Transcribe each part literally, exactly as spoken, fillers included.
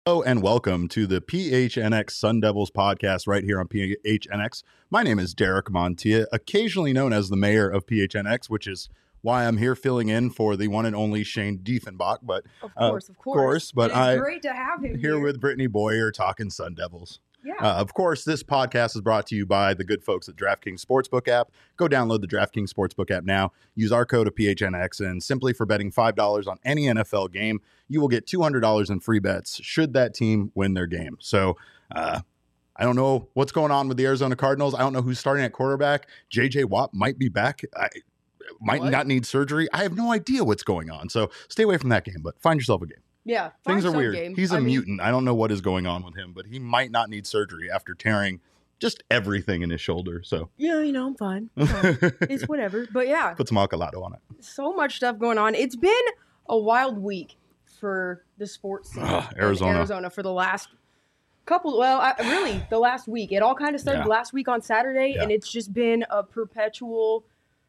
Hello and welcome to the P H N X Sun Devils podcast right here on P H N X. My name is Derek Montilla, occasionally known as the mayor of P H N X, which is why I'm here filling in for the one and only Shane Diefenbach. But of course, uh, of course, course but it's I great to have him here, here with Brittany Boyer talking Sun Devils. Yeah. Uh, of course, this podcast is brought to you by the good folks at DraftKings Sportsbook app. Go download the DraftKings Sportsbook app now. Use our code of P H N X, and simply for betting five dollars on any N F L game, you will get two hundred dollars in free bets should that team win their game. So uh, I don't know what's going on with the Arizona Cardinals. I don't know who's starting at quarterback. J J Watt might be back. I might What? not need surgery. I have no idea what's going on. So stay away from that game, but find yourself a game. Yeah. Things find are weird. game. He's a I mean, mutant. I don't know what is going on with him, but he might not need surgery after tearing just everything in his shoulder. So Yeah, you know, I'm fine. I'm fine. It's whatever. But yeah, put some Alcalado on it. so much stuff going on. It's been a wild week for the sports scene Ugh, in Arizona. Arizona for the last couple, well, I, really, the last week. It all kind of started Yeah. last week on Saturday, Yeah. and it's just been a perpetual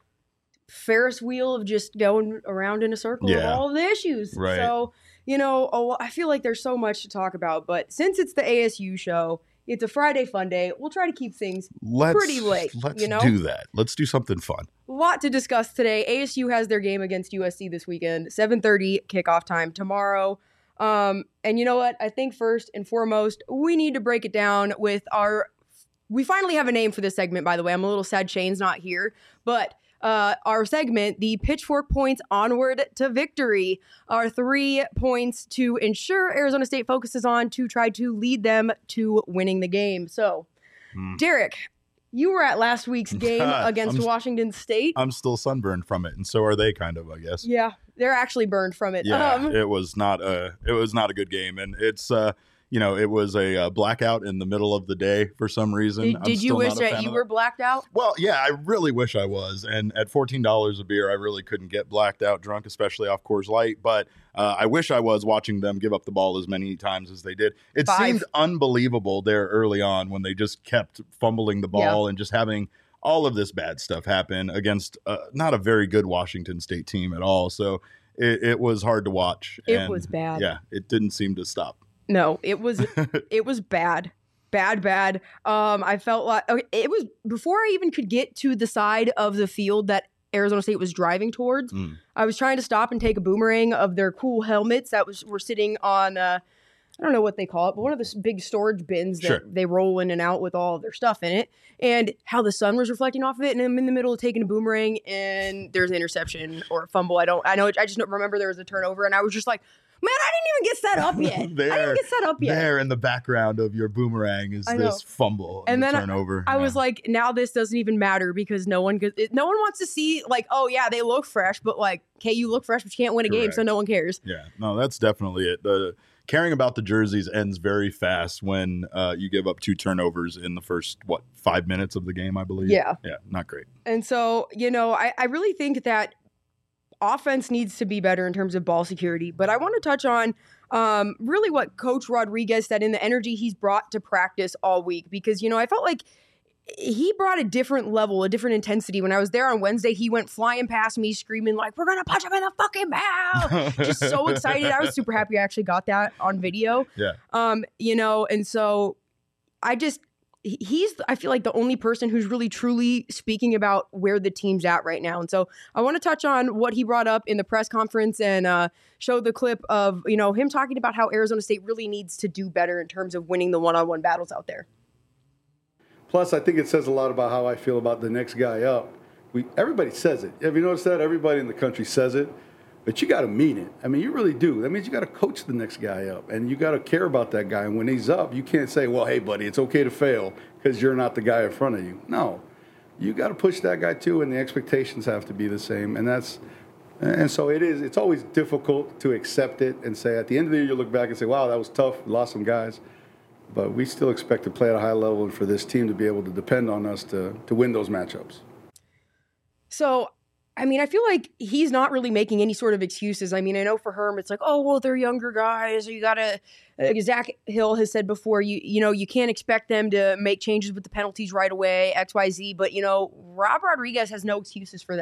Ferris wheel of just going around in a circle of Yeah. all of the issues. Right. So, you know, a lo- I feel like there's so much to talk about, but since it's the A S U show, it's a Friday fun day, we'll try to keep things Let's, pretty late, Let's you know? do that. Let's do something fun. a lot to discuss today. A S U has their game against U S C this weekend, seven thirty kickoff time tomorrow. Um, and you know what? I think first and foremost, we need to break it down with our. We finally have a name for this segment, by the way. I'm a little sad Shane's not here, but uh, our segment, the Pitchfork Points Onward to Victory, are three points to ensure Arizona State focuses on to try to lead them to winning the game. So, Hmm. Derek, you were at last week's game against I'm- Washington State. I'm still sunburned from it, and so are they, kind of, I guess. Yeah, they're actually burned from it. Yeah, Um, it was not a it was not a good game, and it's uh you know it was a uh, blackout in the middle of the day for some reason. did I'm did you still wish not a that fan you of were blacked out? Well, yeah, I really wish I was. And at fourteen dollars a beer, I really couldn't get blacked out drunk, especially off Coors Light. But uh, I wish I was watching them give up the ball as many times as they did. It Five. seemed unbelievable there early on when they just kept fumbling the ball and just having all of this bad stuff happen against uh, not a very good Washington State team at all. So it, it was hard to watch. It And, was bad. Yeah, it didn't seem to stop. No, it was it was bad. Bad, bad. Um, I felt like okay, it was before I even could get to the side of the field that Arizona State was driving towards. Mm. I was trying to stop and take a boomerang of their cool helmets that was were sitting on uh, I don't know what they call it, but one of the s- big storage bins that Sure. they roll in and out with all of their stuff in it, and how the sun was reflecting off of it. And I'm in the middle of taking a boomerang, and there's an interception or a fumble. I don't, I know, I just don't remember there was a turnover, and I was just like, man, I didn't even get set up yet. I didn't There- get set up yet. There in the background of your boomerang is I know. this fumble And the then I- turnover. I was Yeah. like, now this doesn't even matter because no one, could- it, no one wants to see like, oh yeah, they look fresh, but like, okay, you look fresh, but you can't win a game, so Correct. no one cares. Yeah, no, that's definitely it. The caring about the jerseys ends very fast when uh, you give up two turnovers in the first, what, five minutes of the game, I believe? Yeah. Yeah, not great. And so, you know, I, I really think that offense needs to be better in terms of ball security. But I want to touch on um, really what Coach Rodriguez said in the energy he's brought to practice all week. Because, you know, I felt like he brought a different level, a different intensity. When I was there on Wednesday, he went flying past me screaming like, we're going to punch him in the fucking mouth. Just so excited. I was super happy I actually got that on video. Yeah. Um, you know, and so I just, he- he's, I feel like the only person who's really truly speaking about where the team's at right now. And so I want to touch on what he brought up in the press conference and uh, show the clip of, you know, him talking about how Arizona State really needs to do better in terms of winning the one-on-one battles out there. Plus, I think it says a lot about how I feel about the next guy up. We everybody says it. Have you noticed that? Everybody in the country says it, but you got to mean it. I mean, you really do. That means you got to coach the next guy up, and you got to care about that guy. And when he's up, you can't say, "Well, hey, buddy, it's okay to fail because you're not the guy in front of you." No, you got to push that guy too, and the expectations have to be the same. And that's and so it is. It's always difficult to accept it and say at the end of the year you look back and say, "Wow, that was tough. We lost some guys." But we still expect to play at a high level and for this team to be able to depend on us to, to win those matchups. So, I mean, I feel like he's not really making any sort of excuses. I mean, I know for Herm, it's like, oh, well, they're younger guys. You got to, like Zach Hill has said before, you you know, you can't expect them to make changes with the penalties right away, X, Y, Z. But, you know, Rob Rodriguez has no excuses for them.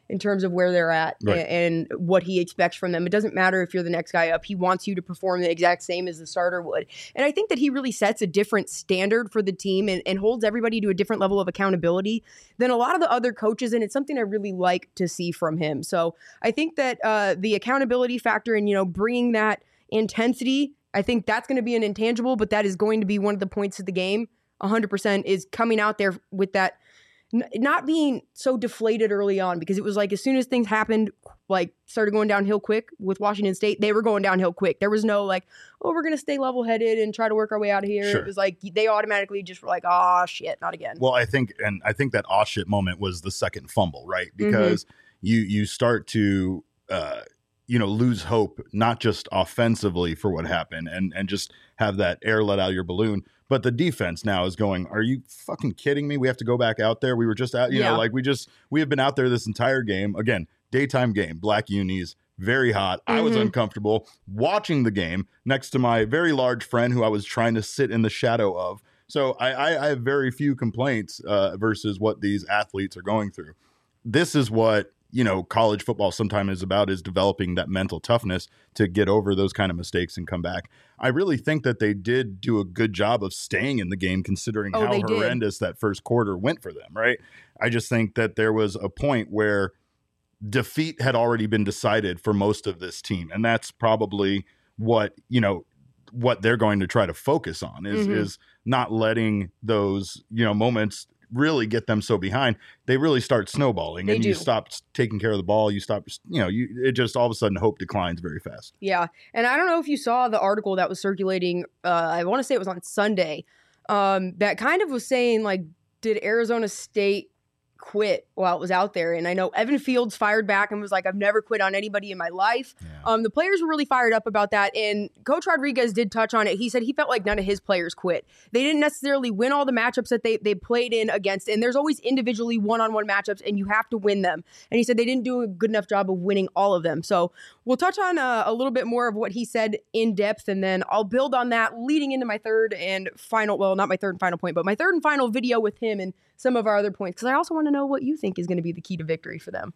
in terms of where they're at Right. and, and what he expects from them. It doesn't matter if you're the next guy up. He wants you to perform the exact same as the starter would. And I think that he really sets a different standard for the team and, and holds everybody to a different level of accountability than a lot of the other coaches. And it's something I really like to see from him. So I think that uh, the accountability factor and, you know, bringing that intensity, I think that's going to be an intangible, but that is going to be one of the points of the game. one hundred percent is coming out there with that, n- not being so deflated early on, because it was like as soon as things happened, like started going downhill quick with Washington State, they were going downhill quick. There was no like, oh, we're going to stay level headed and try to work our way out of here. Sure. It was like they automatically just were like, oh shit, not again. Well, I think, and I think that aw shit moment was the second fumble, right? Because mm-hmm. you you start to, uh, you know, lose hope, not just offensively for what happened and, and just have that air let out of your balloon. But the defense now is going, are you fucking kidding me? We have to go back out there. We were just out, you yeah. know, like we just, we have been out there this entire game. Again, daytime game, black unis, very hot. Mm-hmm. I was uncomfortable watching the game next to my very large friend who I was trying to sit in the shadow of. So I, I, I have very few complaints uh, versus what these athletes are going through. This is what, you know, college football sometimes is about, is developing that mental toughness to get over those kind of mistakes and come back. I really think that they did do a good job of staying in the game, considering oh, how horrendous did. that first quarter went for them, right? I just think that there was a point where defeat had already been decided for most of this team. And that's probably what, you know, what they're going to try to focus on is, mm-hmm. is not letting those, you know, moments really get them so behind. They really start snowballing they and do. You stop taking care of the ball. You stop, you know, you, it just all of a sudden hope declines very fast. Yeah. And I don't know if you saw the article that was circulating. Uh, I want to say it was on Sunday. Um, that kind of was saying like, did Arizona State quit while it was out there? And I know Evan Fields fired back and was like, I've never quit on anybody in my life. Yeah. Um, the players were really fired up about that. And Coach Rodriguez did touch on it. He said he felt like none of his players quit. They didn't necessarily win all the matchups that they, they played in against. And there's always individually one-on-one matchups and you have to win them. And he said they didn't do a good enough job of winning all of them. So we'll touch on uh, a little bit more of what he said in depth. And then I'll build on that leading into my third and final, well, not my third and final point, but my third and final video with him and some of our other points, because I also want to know what you think is going to be the key to victory for them.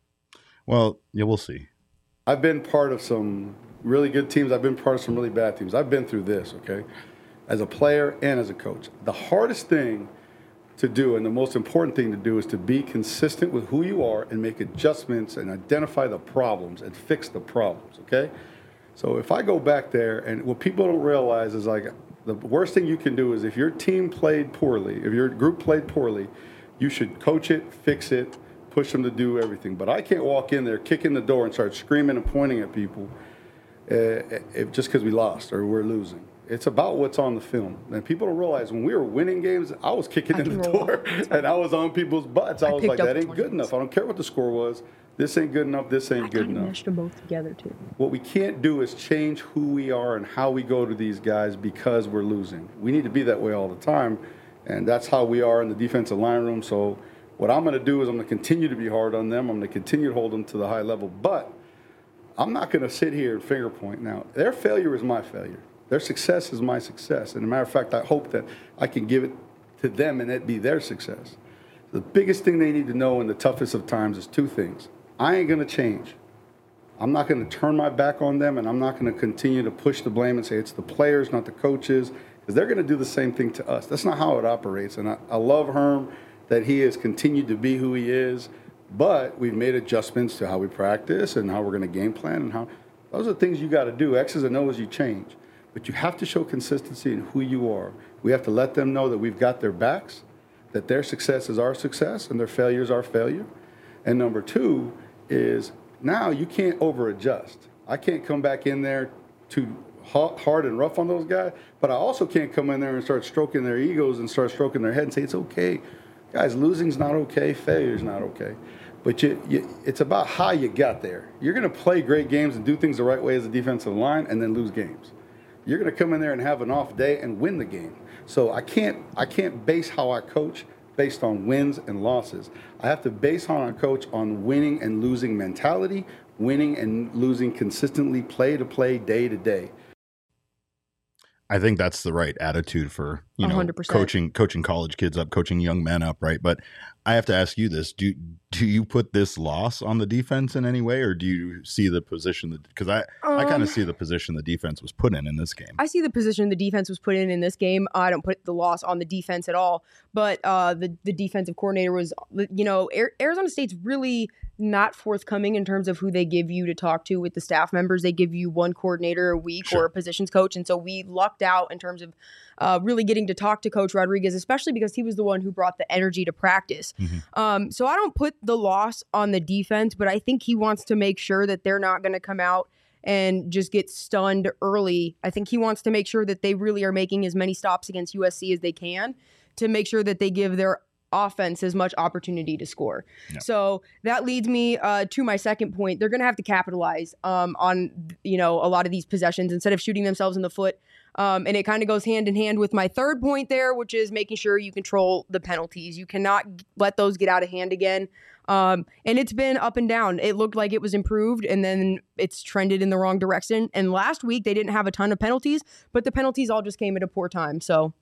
Well, yeah, we'll see. I've been part of some really good teams. I've been part of some really bad teams. I've been through this, okay, as a player and as a coach. The hardest thing to do and the most important thing to do is to be consistent with who you are and make adjustments and identify the problems and fix the problems, okay? So if I go back there, and what people don't realize is like, the worst thing you can do is if your team played poorly, if your group played poorly, you should coach it, fix it, push them to do everything. But I can't walk in there, kick in the door, and start screaming and pointing at people uh, if, just because we lost or we're losing. It's about what's on the film. And people don't realize when we were winning games, I was kicking I in the door, and I was on people's butts. I, I was like, that ain't good enough. I don't care what the score was. This ain't good enough. This ain't I good enough. Meshed them both together too. What we can't do is change who we are and how we go to these guys because we're losing. We need to be that way all the time, and that's how we are in the defensive line room. So what I'm going to do is I'm going to continue to be hard on them. I'm going to continue to hold them to the high level, but I'm not going to sit here and finger point. Now, their failure is my failure. Their success is my success. And as a matter of fact, I hope that I can give it to them and it be their success. The biggest thing they need to know in the toughest of times is two things. I ain't going to change. I'm not going to turn my back on them, and I'm not going to continue to push the blame and say it's the players, not the coaches, because they're going to do the same thing to us. That's not how it operates. And I, I love Herm that he has continued to be who he is, but we've made adjustments to how we practice and how we're going to game plan. And how those are things you got to do. X's and O's you change. But you have to show consistency in who you are. We have to let them know that we've got their backs, that their success is our success, and their failure is our failure. And number two is now you can't over-adjust. I can't come back in there too hard and rough on those guys, but I also can't come in there and start stroking their egos and start stroking their head and say, it's okay. Guys, losing's not okay, failure's not okay. But you, you, it's about how you got there. You're going to play great games and do things the right way as a defensive line and then lose games. You're going to come in there and have an off day and win the game. So I can't I can't base how I coach based on wins and losses. I have to base how I coach on winning and losing mentality, winning and losing consistently, play to play, day to day. I think that's the right attitude for, you you know, one hundred percent. coaching coaching college kids up, coaching young men up, right? But I have to ask you this: do do you put this loss on the defense in any way, or do you see the position that? Because I Um, I kind of see the position the defense was put in in this game. I see the position the defense was put in in this game. I don't put the loss on the defense at all, but uh, the the defensive coordinator was, you know, Arizona State's really not forthcoming in terms of who they give you to talk to with the staff members. They give you one coordinator a week Sure. or a positions coach, and so we lucked out in terms of uh, really getting to talk to Coach Rodriguez, especially because he was the one who brought the energy to practice. Mm-hmm. Um, so I don't put the loss on the defense, but I think he wants to make sure that they're not going to come out and just get stunned early. I think he wants to make sure that they really are making as many stops against U S C as they can to make sure that they give their offense as much opportunity to score. Yeah. So that leads me uh, to my second point. They're going to have to capitalize um, on, you know, a lot of these possessions instead of shooting themselves in the foot. Um, and it kind of goes hand in hand with my third point there, which is making sure you control the penalties. You cannot let those get out of hand again. Um, and it's been up and down. It looked like it was improved, and then it's trended in the wrong direction. And last week they didn't have a ton of penalties, but the penalties all just came at a poor time. So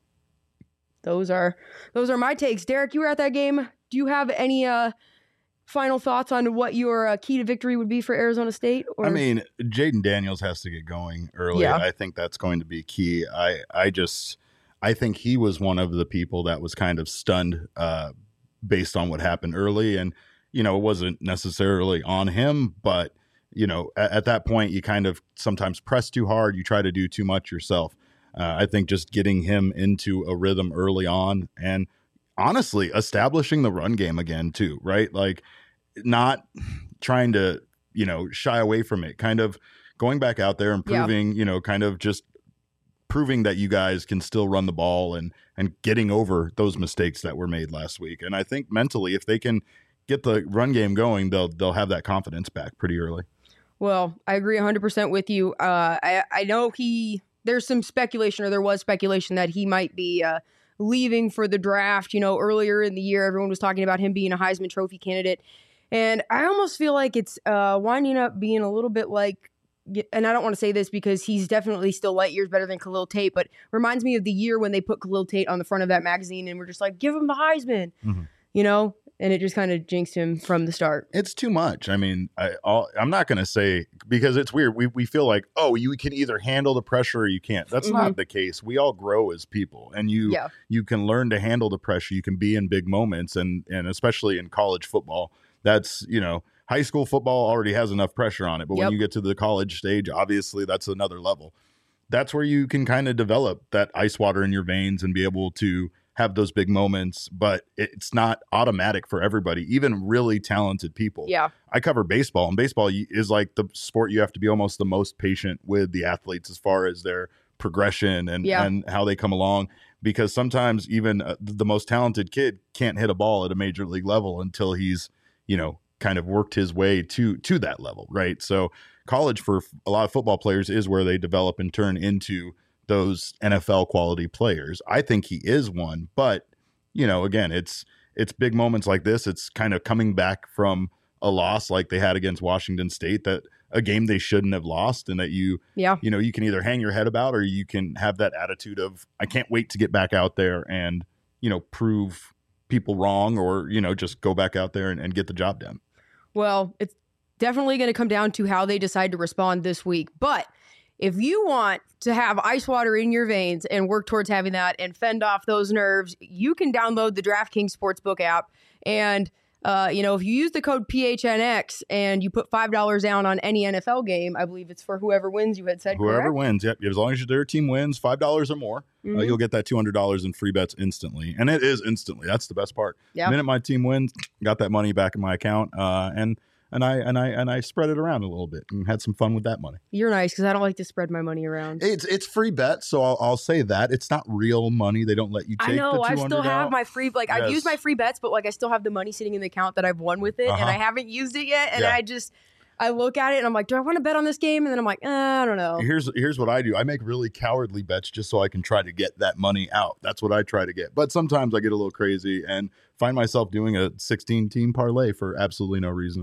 those are those are my takes. Derek, you were at that game. Do you have any uh, final thoughts on what your uh, key to victory would be for Arizona State? Or? I mean, Jaden Daniels has to get going early. Yeah. I think that's going to be key. I, I just, I think he was one of the people that was kind of stunned uh, based on what happened early. And, you know, it wasn't necessarily on him, but, you know, at, at that point, you kind of sometimes press too hard. You try to do too much yourself. Uh, I think just getting him into a rhythm early on and honestly establishing the run game again too, right? Like not trying to, you know, shy away from it, kind of going back out there and proving, yeah. you know, kind of just proving that you guys can still run the ball and, and getting over those mistakes that were made last week. And I think mentally, if they can get the run game going, they'll, they'll have that confidence back pretty early. Well, I agree one hundred percent with you. Uh, I, I know he, there's some speculation, or there was speculation that he might be uh, leaving for the draft. You know, earlier in the year, everyone was talking about him being a Heisman Trophy candidate. And I almost feel like it's uh, winding up being a little bit like, and I don't want to say this because he's definitely still light years better than Khalil Tate, but reminds me of the year when they put Khalil Tate on the front of that magazine and we're just like, give him the Heisman, mm-hmm. you know? And it just kind of jinxed him from the start. It's too much. I mean, I, I'll, I'm not going to say, because it's weird. We we feel like, oh, you can either handle the pressure or you can't. That's mm-hmm. not the case. We all grow as people, and you yeah. you can learn to handle the pressure. You can be in big moments, and and especially in college football. That's, you know, high school football already has enough pressure on it. But yep. when you get to the college stage, obviously that's another level. That's where you can kind of develop that ice water in your veins and be able to have those big moments, but it's not automatic for everybody, even really talented people. Yeah. I cover baseball, and baseball is like the sport you have to be almost the most patient with the athletes as far as their progression and, yeah. and how they come along, because sometimes even uh, the most talented kid can't hit a ball at a major league level until he's, you know, kind of worked his way to to that level, right? So college for a lot of football players is where they develop and turn into those N F L quality players. I think he is one, but you know, again, it's it's big moments like this. It's kind of coming back from a loss like they had against Washington State, that a game they shouldn't have lost, and that you, yeah. you know, you can either hang your head about, or you can have that attitude of, I can't wait to get back out there and, you know, prove people wrong, or, you know, just go back out there and, and get the job done. Well, it's definitely going to come down to how they decide to respond this week. But if you want to have ice water in your veins and work towards having that and fend off those nerves, you can download the DraftKings Sportsbook app. And, uh, you know, if you use the code P H N X and you put five dollars down on any N F L game, I believe it's for whoever wins, you had said, Whoever correct? wins, yep. As long as their team wins five dollars or more, mm-hmm. uh, you'll get that two hundred dollars in free bets instantly. And it is instantly. That's the best part. Yep. The minute my team wins, got that money back in my account. Uh, and And I and I and I spread it around a little bit and had some fun with that money. You're nice, because I don't like to spread my money around. It's it's free bet, so I'll, I'll say that it's not real money. They don't let you take. I know. The I still have out. my free like yes. I've used my free bets, but like I still have the money sitting in the account that I've won with it, uh-huh. and I haven't used it yet. And yeah. I just I look at it and I'm like, do I want to bet on this game? And then I'm like, eh, I don't know. Here's here's what I do. I make really cowardly bets just so I can try to get that money out. That's what I try to get. But sometimes I get a little crazy and find myself doing a sixteen team parlay for absolutely no reason at all.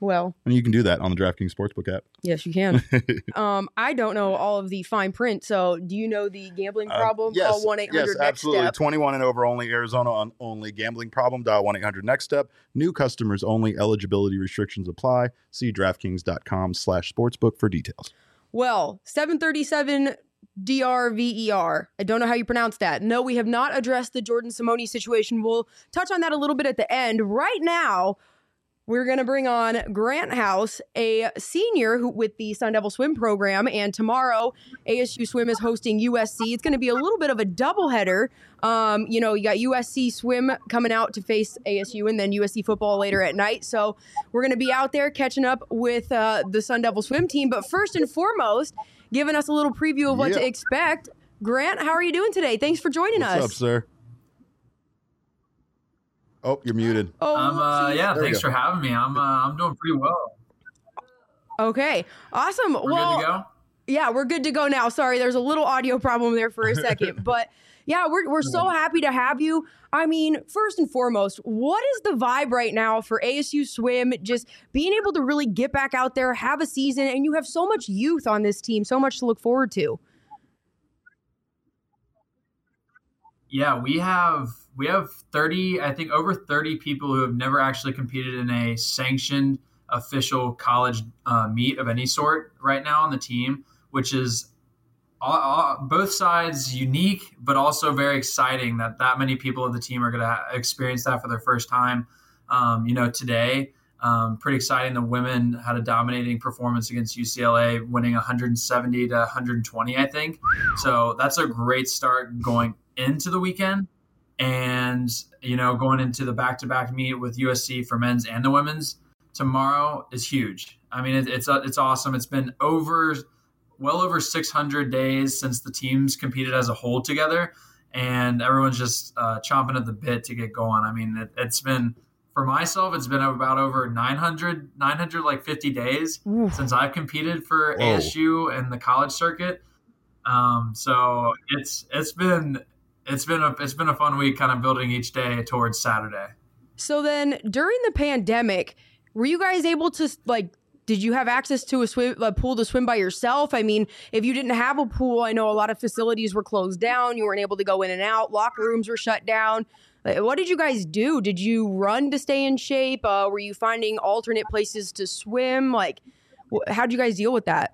Well, And you can do that on the DraftKings Sportsbook app. yes, you can. um, I don't know all of the fine print, so do you know the gambling problem? Um, yes, Call one eight hundred yes, next absolutely. step. twenty-one and over only, Arizona on only. Gambling problem, dial one eight hundred next step. New customers only. Eligibility restrictions apply. See DraftKings.com slash sportsbook for details. Well, seven thirty-seven D R V E R. I don't know how you pronounce that. No, we have not addressed the Jordan Simone situation. We'll touch on that a little bit at the end. Right now, we're going to bring on Grant House, a senior who with the Sun Devil Swim program. And tomorrow, A S U Swim is hosting U S C. It's going to be a little bit of a doubleheader. Um, you know, you got U S C Swim coming out to face A S U and then U S C football later at night. So we're going to be out there catching up with uh, the Sun Devil Swim team. But first and foremost, giving us a little preview of what Yep. to expect. Grant, how are you doing today? Thanks for joining What's us. up, sir? Oh, you're muted. Oh, Um, uh, whoopsies. yeah, There we thanks go. for having me. I'm uh, I'm doing pretty well. Okay, awesome. We're well, good to go. yeah, we're good to go now. Sorry, there's a little audio problem there for a second, but yeah, we're we're so happy to have you. I mean, first and foremost, what is the vibe right now for A S U Swim? Just being able to really get back out there, have a season, and you have so much youth on this team, so much to look forward to. Yeah, we have we have thirty, I think over thirty people who have never actually competed in a sanctioned official college uh, meet of any sort right now on the team, which is all, all, both sides unique, but also very exciting that that many people of the team are going to ha- experience that for their first time. Um, you know, today, um, pretty exciting. The women had a dominating performance against U C L A, winning one seventy to one twenty, I think. So that's a great start going into the weekend. And, you know, going into the back-to-back meet with U S C for men's and the women's tomorrow is huge. I mean, it, it's it's awesome. It's been over, well over six hundred days since the teams competed as a whole together, and everyone's just uh, chomping at the bit to get going. I mean, it, it's been, for myself, it's been about over nine hundred, nine hundred like fifty days Oof. since I've competed for Whoa. A S U and the college circuit. Um, so it's it's been it's been a it's been a fun week, kind of building each day towards Saturday. So then, during the pandemic, were you guys able to like? Did you have access to a swim a pool to swim by yourself? I mean, if you didn't have a pool, I know a lot of facilities were closed down. You weren't able to go in and out. Locker rooms were shut down. Like, what did you guys do? Did you run to stay in shape? Uh, were you finding alternate places to swim? Like, wh- how did you guys deal with that?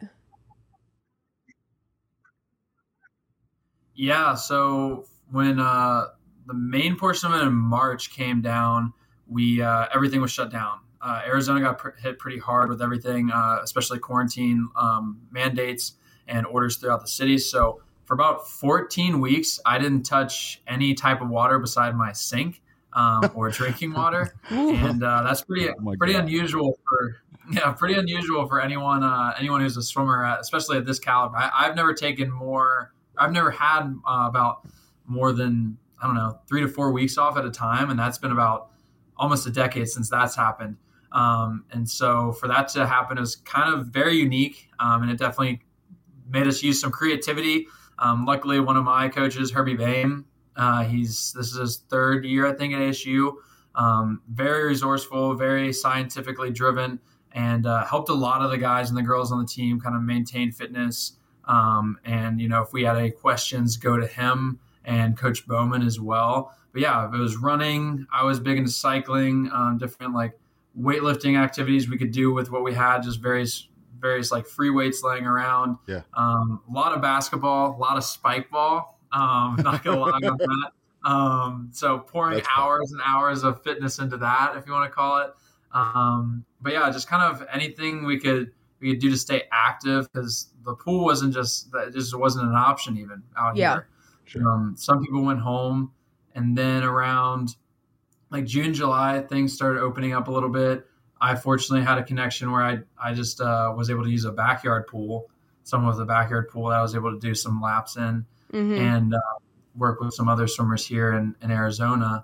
Yeah, so when uh, the main portion of it in March came down, we uh, everything was shut down. Uh, Arizona got pr- hit pretty hard with everything, uh, especially quarantine um, mandates and orders throughout the city. So for about fourteen weeks, I didn't touch any type of water beside my sink um, or drinking water, and uh, that's pretty Oh my pretty God. unusual for yeah pretty unusual for anyone uh, anyone who's a swimmer, uh, especially at this caliber. I, I've never taken more. I've never had uh, about more than I don't know three to four weeks off at a time, and that's been about almost a decade since that's happened. Um, and so for that to happen is kind of very unique, um, and it definitely made us use some creativity. Um, luckily, one of my coaches, Herbie Boehm, uh, he's this is his third year, I think, at A S U. Um, very resourceful, very scientifically driven, and uh, helped a lot of the guys and the girls on the team kind of maintain fitness. Um, and you know, if we had any questions, go to him and Coach Bowman as well. But yeah, if it was running, I was big into cycling, um, different like weightlifting activities we could do with what we had, just various various like free weights laying around. Yeah. Um, a lot of basketball, a lot of spike ball. Um, not gonna lie on that. Um, so pouring That's fun. hours and hours of fitness into that, if you want to call it. Um, but yeah, just kind of anything we could we could do to stay active, because the pool wasn't just that just wasn't an option even out Yeah. here. Sure. Um, some people went home, and then around like June, July, things started opening up a little bit. I fortunately had a connection where I I just uh, was able to use a backyard pool, someone with a backyard pool that I was able to do some laps in, Mhm. and uh, work with some other swimmers here in, in Arizona.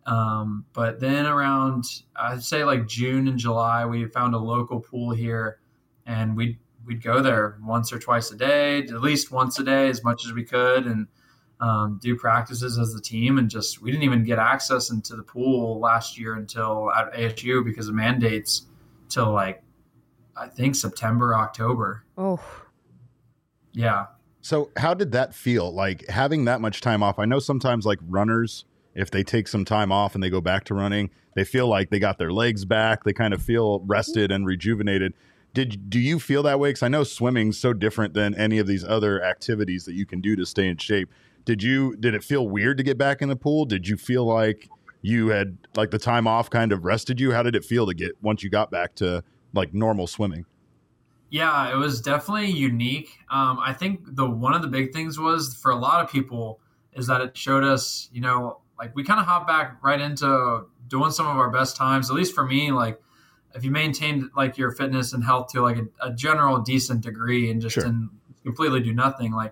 Um, but then around, I'd say like June and July, we found a local pool here, and we'd, we'd go there once or twice a day, at least once a day, as much as we could, and um, do practices as the team. And just, we didn't even get access into the pool last year until at A S U because of mandates till like, I think September, October. Oh, yeah. So how did that feel, like having that much time off? I know sometimes like runners, if they take some time off and they go back to running, they feel like they got their legs back. They kind of feel rested and rejuvenated. Did do you feel that way? Because I know swimming's so different than any of these other activities that you can do to stay in shape. Did you did it feel weird to get back in the pool? Did you feel like you had like the time off kind of rested you? How did it feel to get once you got back to like normal swimming? Yeah, it was definitely unique. Um, I think the one of the big things was for a lot of people is that it showed us, you know, like we kind of hopped back right into doing some of our best times. At least for me, like if you maintained like your fitness and health to like a, a general decent degree and just Sure. didn't completely do nothing, like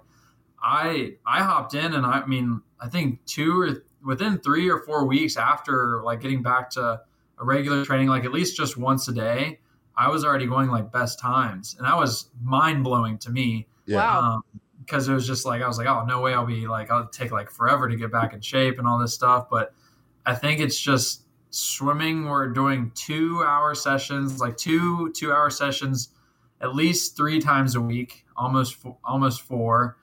I I hopped in and I, I mean I think two or within three or four weeks after like getting back to a regular training, like at least just once a day, I was already going like best times, and that was mind blowing to me. Yeah. Wow. Um, because it was just like I was like, oh no way, I'll be like I'll take like forever to get back in shape and all this stuff. But I think it's just swimming. We're doing two hour sessions, like two two hour sessions, at least three times a week, almost fo- almost four.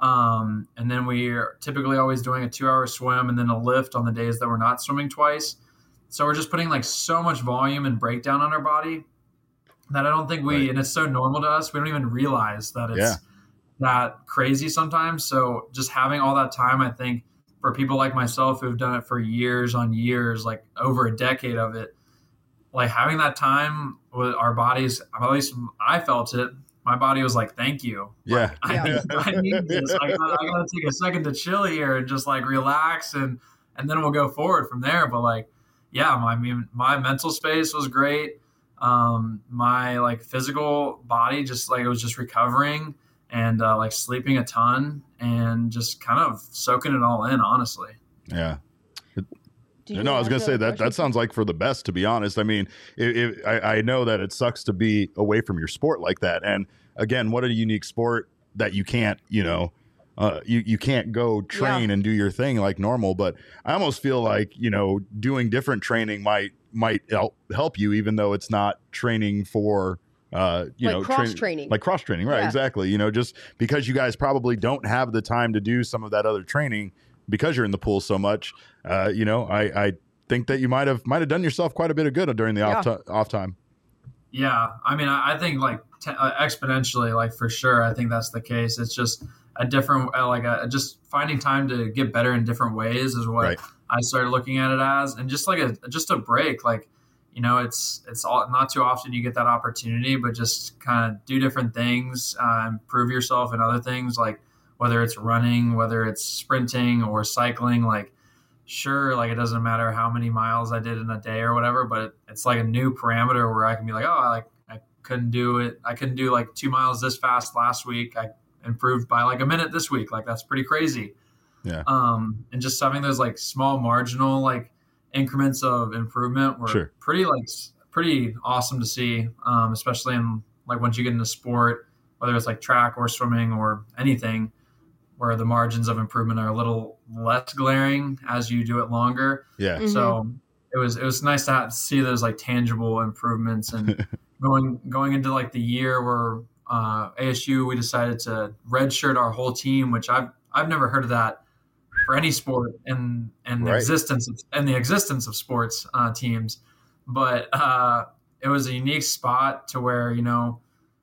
Um, and then we're typically always doing a two hour swim and then a lift on the days that we're not swimming twice. So we're just putting like so much volume and breakdown on our body that I don't think we, Right. and it's so normal to us, we don't even realize that it's Yeah. that crazy sometimes. So just having all that time, I think for people like myself who've done it for years on years, like over a decade of it, like having that time with our bodies, at least I felt it. My body was like, thank you. Yeah. I, Yeah. need, I need this. I gotta, I gotta take a second to chill here and just like relax, and and then we'll go forward from there. But like, yeah, my I mean, my mental space was great. Um, my like physical body, just like it was just recovering and uh, like sleeping a ton and just kind of soaking it all in. Honestly, Yeah. Did you No, I was ask going to say another that question? that sounds like for the best, to be honest. I mean, it, it, I, I know that it sucks to be away from your sport like that. And again, what a unique sport that you can't, you know, uh, you, you can't go train and do your thing like normal. But I almost feel like, you know, doing different training might might help, help you, even though it's not training for, uh, you Like know, cross train- training. like cross training. Right. Yeah. Exactly. You know, just because you guys probably don't have the time to do some of that other training because you're in the pool so much, uh, you know, I, I think that you might have might have done yourself quite a bit of good during the Yeah. off, t- off time. yeah. I mean, I, I think like t- uh, exponentially, like for sure, I think that's the case. It's just a different, uh, like a, just finding time to get better in different ways is what Right. I started looking at it as, and just like a just a break, like. You know, it's it's all, not too often you get that opportunity, but just kind of do different things, uh, improve yourself in other things, like whether it's running, whether it's sprinting or cycling. Like, sure, like it doesn't matter how many miles I did in a day or whatever, but it, it's like a new parameter where I can be like, oh, I, like I couldn't do it. I couldn't do like two miles this fast last week. I improved by like a minute this week. Like that's pretty crazy. Yeah. Um, and just having those like small marginal like increments of improvement were Sure. pretty like pretty awesome to see, um, especially in like once you get into sport, whether it's like track or swimming or anything, where the margins of improvement are a little less glaring as you do it longer. Yeah. Mhm. So it was it was nice to have, see those like tangible improvements. And going going into like the year where uh, A S U we decided to redshirt our whole team, which I've I've never heard of that for any sport in in the Right. existence of, in the existence of sports uh, teams, but uh, it was a unique spot to where you know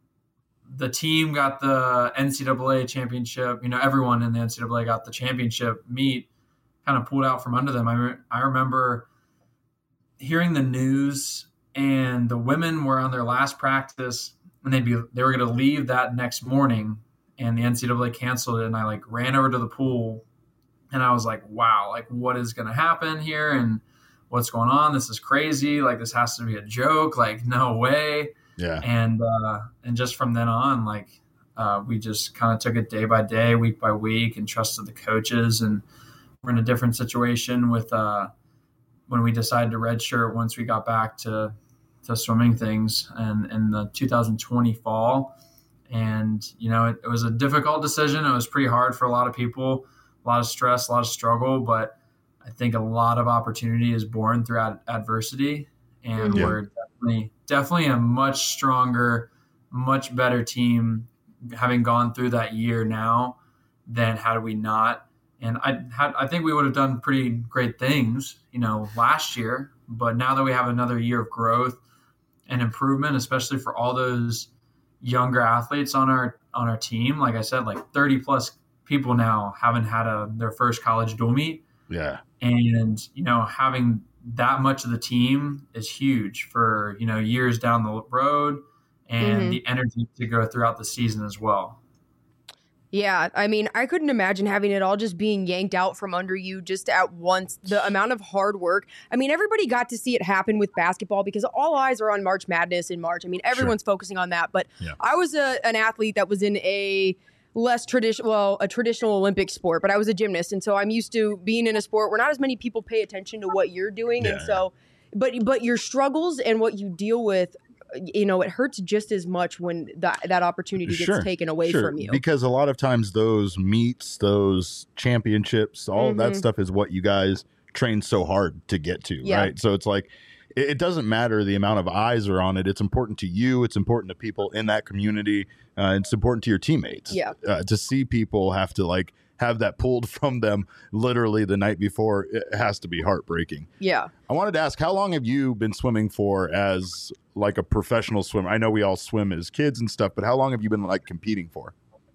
the team got the N C double A championship. You know, everyone in the N C double A got the championship meet, kind of pulled out from under them. I re- I remember hearing the news, and the women were on their last practice, and they'd be they were going to leave that next morning, and the N C double A canceled it, and I like ran over to the pool. And I was like, wow, like what is going to happen here? And what's going on? This is crazy. Like this has to be a joke. Like no way. Yeah. And, uh, and just from then on, like, uh, we just kind of took it day by day, week by week, and trusted the coaches. And we're in a different situation with, uh, when we decided to redshirt once we got back to, to swimming things and in the two thousand twenty fall. And, you know, it, it was a difficult decision. It was pretty hard for a lot of people. A lot of stress, a lot of struggle, but I think a lot of opportunity is born through ad- adversity, and Mhm. we're definitely definitely a much stronger, much better team having gone through that year now than had we not. And I had, I think we would have done pretty great things, you know, last year. But now that we have another year of growth and improvement, especially for all those younger athletes on our on our team, like I said, like thirty plus people now haven't had a their first college dual meet. Yeah. And, you know, having that much of the team is huge for, you know, years down the road and mm-hmm. the energy to go throughout the season as well. Yeah, I mean, I couldn't imagine having it all just being yanked out from under you just at once. The amount of hard work. I mean, everybody got to see it happen with basketball because all eyes are on March Madness in March. I mean, everyone's sure. focusing on that. But yeah. I was a, an athlete that was in a less traditional, well, a traditional Olympic sport, but I was a gymnast. And so I'm used to being in a sport where not as many people pay attention to what you're doing. Yeah, and so, yeah. but but your struggles and what you deal with, you know, it hurts just as much when that that opportunity gets sure, taken away sure. from you. Because a lot of times those meets, those championships, all mm-hmm. of that stuff is what you guys train so hard to get to, yeah. right? So it's like, it, it doesn't matter the amount of eyes are on it. It's important to you. It's important to people in that community. Uh, it's important to your teammates. Yeah. Uh, to see people have to like have that pulled from them literally the night before, it has to be heartbreaking. Yeah. I wanted to ask, how long have you been swimming for as like a professional swimmer? I know we all swim as kids and stuff, but how long have you been like competing for?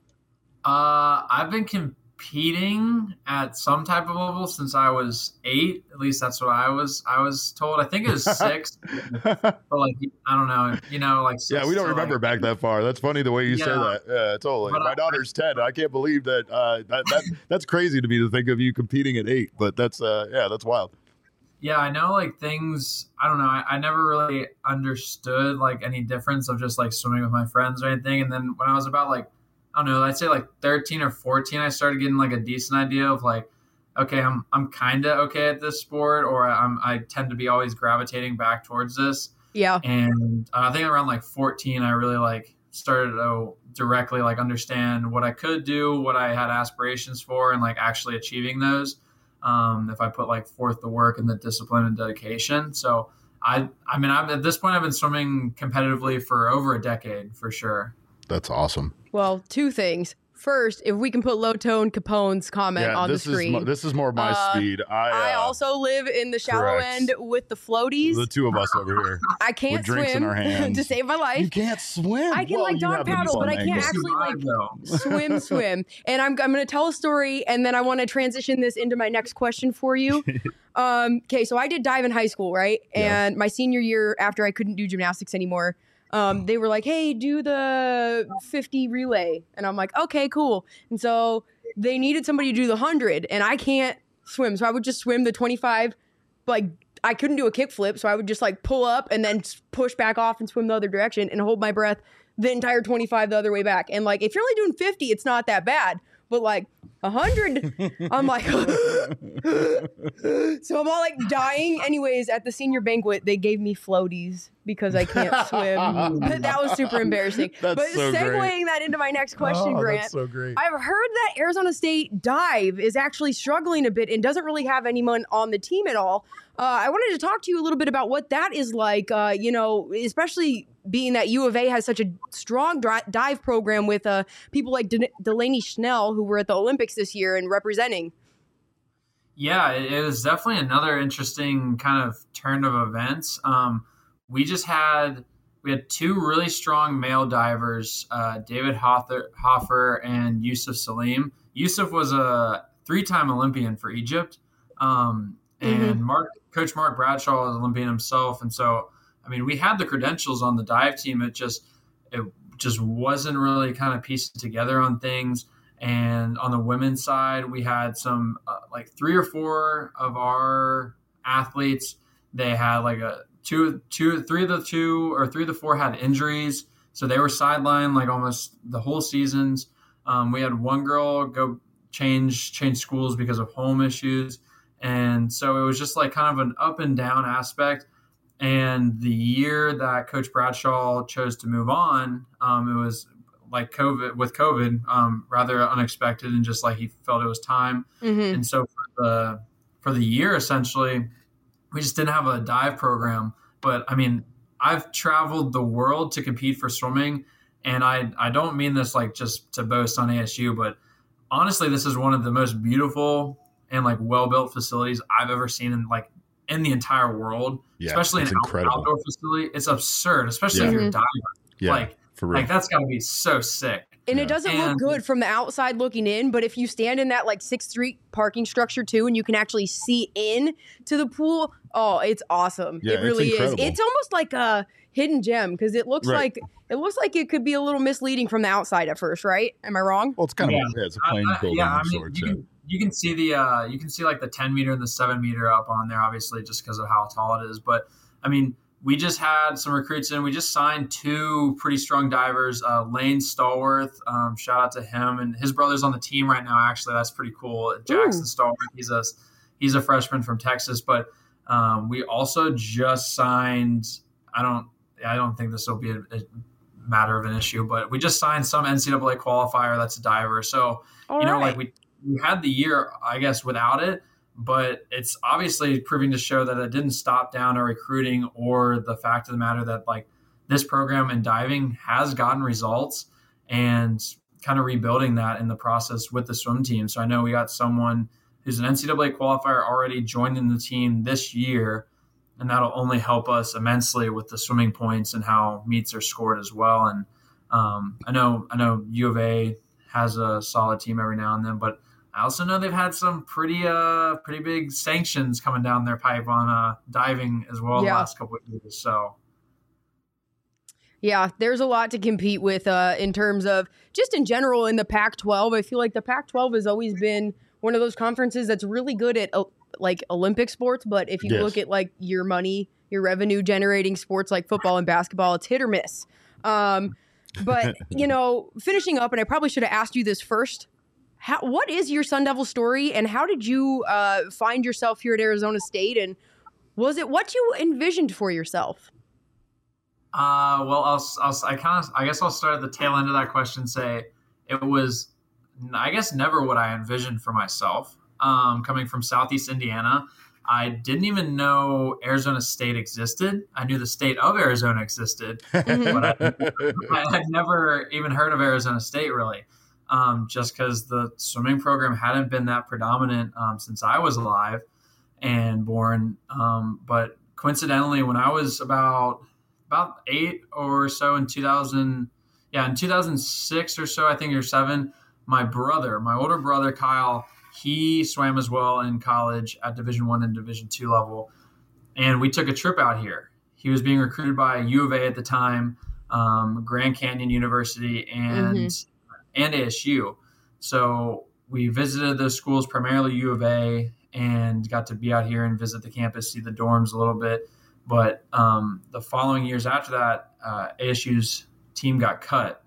Uh, I've been competing at some type of level since I was eight. At least that's what I was. I was told. I think it was six, but like I don't know. You know, like yeah, we don't remember like, back that far. That's funny the way you yeah, say that. Yeah, totally. My I, daughter's ten. I can't believe that. Uh, that, that that's crazy to me to think of you competing at eight. But that's uh, yeah, that's wild. Yeah, I know like things, I don't know, I, I never really understood like any difference of just like swimming with my friends or anything. And then when I was about like, I don't know, I'd say like thirteen or fourteen, I started getting like a decent idea of like, okay, I'm I'm kind of okay at this sport, or I'm I tend to be always gravitating back towards this. Yeah. And uh, I think around like fourteen, I really like started to directly like understand what I could do, what I had aspirations for, and like actually achieving those. Um, if I put like forth the work and the discipline and dedication. So I, I mean, I'm, at this point, I've been swimming competitively for over a decade for sure. That's awesome. Well, two things. First, if we can put Low Tone Capone's comment yeah, on this the screen. Is, this is more my uh, speed. I, uh, I also live in the shallow correct. end with the floaties. The two of us over here. I can't with drinks swim in our hands. to save my life. You can't swim. I can well, like dog paddle, but I can't angles. actually like swim, swim. And I'm I'm going to tell a story, and then I want to transition this into my next question for you. um, okay, so I did dive in high school, right? And yeah. my senior year, after I couldn't do gymnastics anymore, Um, they were like, hey, do the fifty relay. And I'm like, okay, cool. And so they needed somebody to do the one hundred, and I can't swim. So I would just swim the twenty-five. Like, I couldn't do a kickflip, so I would just like pull up and then push back off and swim the other direction and hold my breath the entire twenty-five the other way back. And like, if you're only doing fifty, it's not that bad. But like one hundred, I'm like, so I'm all like dying. Anyways, at the senior banquet, they gave me floaties because I can't swim. That was super embarrassing. That's but so segueing great. that into my next question, oh, Grant, that's so great. I've heard that Arizona State dive is actually struggling a bit and doesn't really have anyone on the team at all. Uh, I wanted to talk to you a little bit about what that is like, uh, you know, especially being that U of A has such a strong dri- dive program with uh, people like De- Delaney Schnell, who were at the Olympics this year and representing. Yeah, it was definitely another interesting kind of turn of events. Um, we just had we had two really strong male divers, uh, David Hoffer, Hoffer and Yusuf Salim. Yusuf was a three-time Olympian for Egypt, um, and mm-hmm. Mark, Coach Mark Bradshaw was Olympian himself, and so I mean we had the credentials on the dive team. It just it just wasn't really kind of pieced together on things. And on the women's side, we had some uh, like three or four of our athletes. They had like a two, two, three of the two or three of the four had injuries. So they were sidelined like almost the whole seasons. Um, we had one girl go change, change schools because of home issues. And so it was just like kind of an up and down aspect. And the year that Coach Bradshaw chose to move on, um, it was like COVID with COVID, um, rather unexpected, and just like he felt it was time. Mm-hmm. And so for the for the year, essentially, we just didn't have a dive program. But I mean, I've traveled the world to compete for swimming, and I I don't mean this like just to boast on A S U, but honestly, this is one of the most beautiful and like well-built facilities I've ever seen in like in the entire world, Yeah, especially it's an out- incredible. outdoor facility. It's absurd, especially Yeah. if you're a diver. Yeah, Like, for real. like that's got to be so sick. And Yeah. it doesn't And- look good from the outside looking in, but if you stand in that like Sixth Street parking structure too, and you can actually see in to the pool, oh, it's awesome. Yeah, it it's really is. incredible. It's almost like a hidden gem because it looks Right. like it looks like it could be a little misleading from the outside at first, right? Am I wrong? well, it's kind Yeah. of yeah, it's a plain I- I- building yeah, I of mean, sorts. you Yeah. can, you can see the uh, you can see like the ten meter and the seven meter up on there, obviously, just because of how tall it is. But I mean, we just had some recruits in. We just signed two pretty strong divers. Uh, Lane Stallworth, um, shout out to him, and his brother's on the team right now. Actually, that's pretty cool. Jackson Ooh. Stallworth, he's a he's a freshman from Texas. But um, we also just signed. I don't I don't think this will be a, a matter of an issue, but we just signed some N C double A qualifier that's a diver. So All you know, right. like we we had the year, I guess, without it. But it's obviously proving to show that it didn't stop down our recruiting or the fact of the matter that like this program in diving has gotten results and kind of rebuilding that in the process with the swim team. So I know we got someone who's an N C double A qualifier already joining the team this year, and that'll only help us immensely with the swimming points and how meets are scored as well. And um, I know I know U of A has a solid team every now and then, but I also know they've had some pretty uh pretty big sanctions coming down their pipe on uh diving as well Yeah. the last couple of years. So Yeah, there's a lot to compete with uh, in terms of just in general in the Pac twelve. I feel like the Pac twelve has always been one of those conferences that's really good at uh, like Olympic sports. But if you Yes. look at like your money, your revenue generating sports like football and basketball, it's hit or miss. Um, but, you know, finishing up, and I probably should have asked you this first. How, what is your Sun Devil story, and how did you uh, find yourself here at Arizona State? And was it what you envisioned for yourself? Uh, well, I'll, I'll, I kind of, I guess I'll start at the tail end of that question. Say it was, I guess, never what I envisioned for myself. Um, coming from Southeast Indiana, I didn't even know Arizona State existed. I knew the state of Arizona existed, Mhm. but I, I had never even heard of Arizona State really. Um, just because the swimming program hadn't been that predominant um, since I was alive and born. Um, but coincidentally, when I was about about eight or so in two thousand, yeah, in two thousand six or so, I think, or seven, my brother, my older brother Kyle, he swam as well in college at Division One and Division Two level, and we took a trip out here. He was being recruited by U of A at the time, um, Grand Canyon University, and and A S U. So we visited those schools, primarily U of A, and got to be out here and visit the campus, see the dorms a little bit. But um, the following years after that, uh, A S U's team got cut.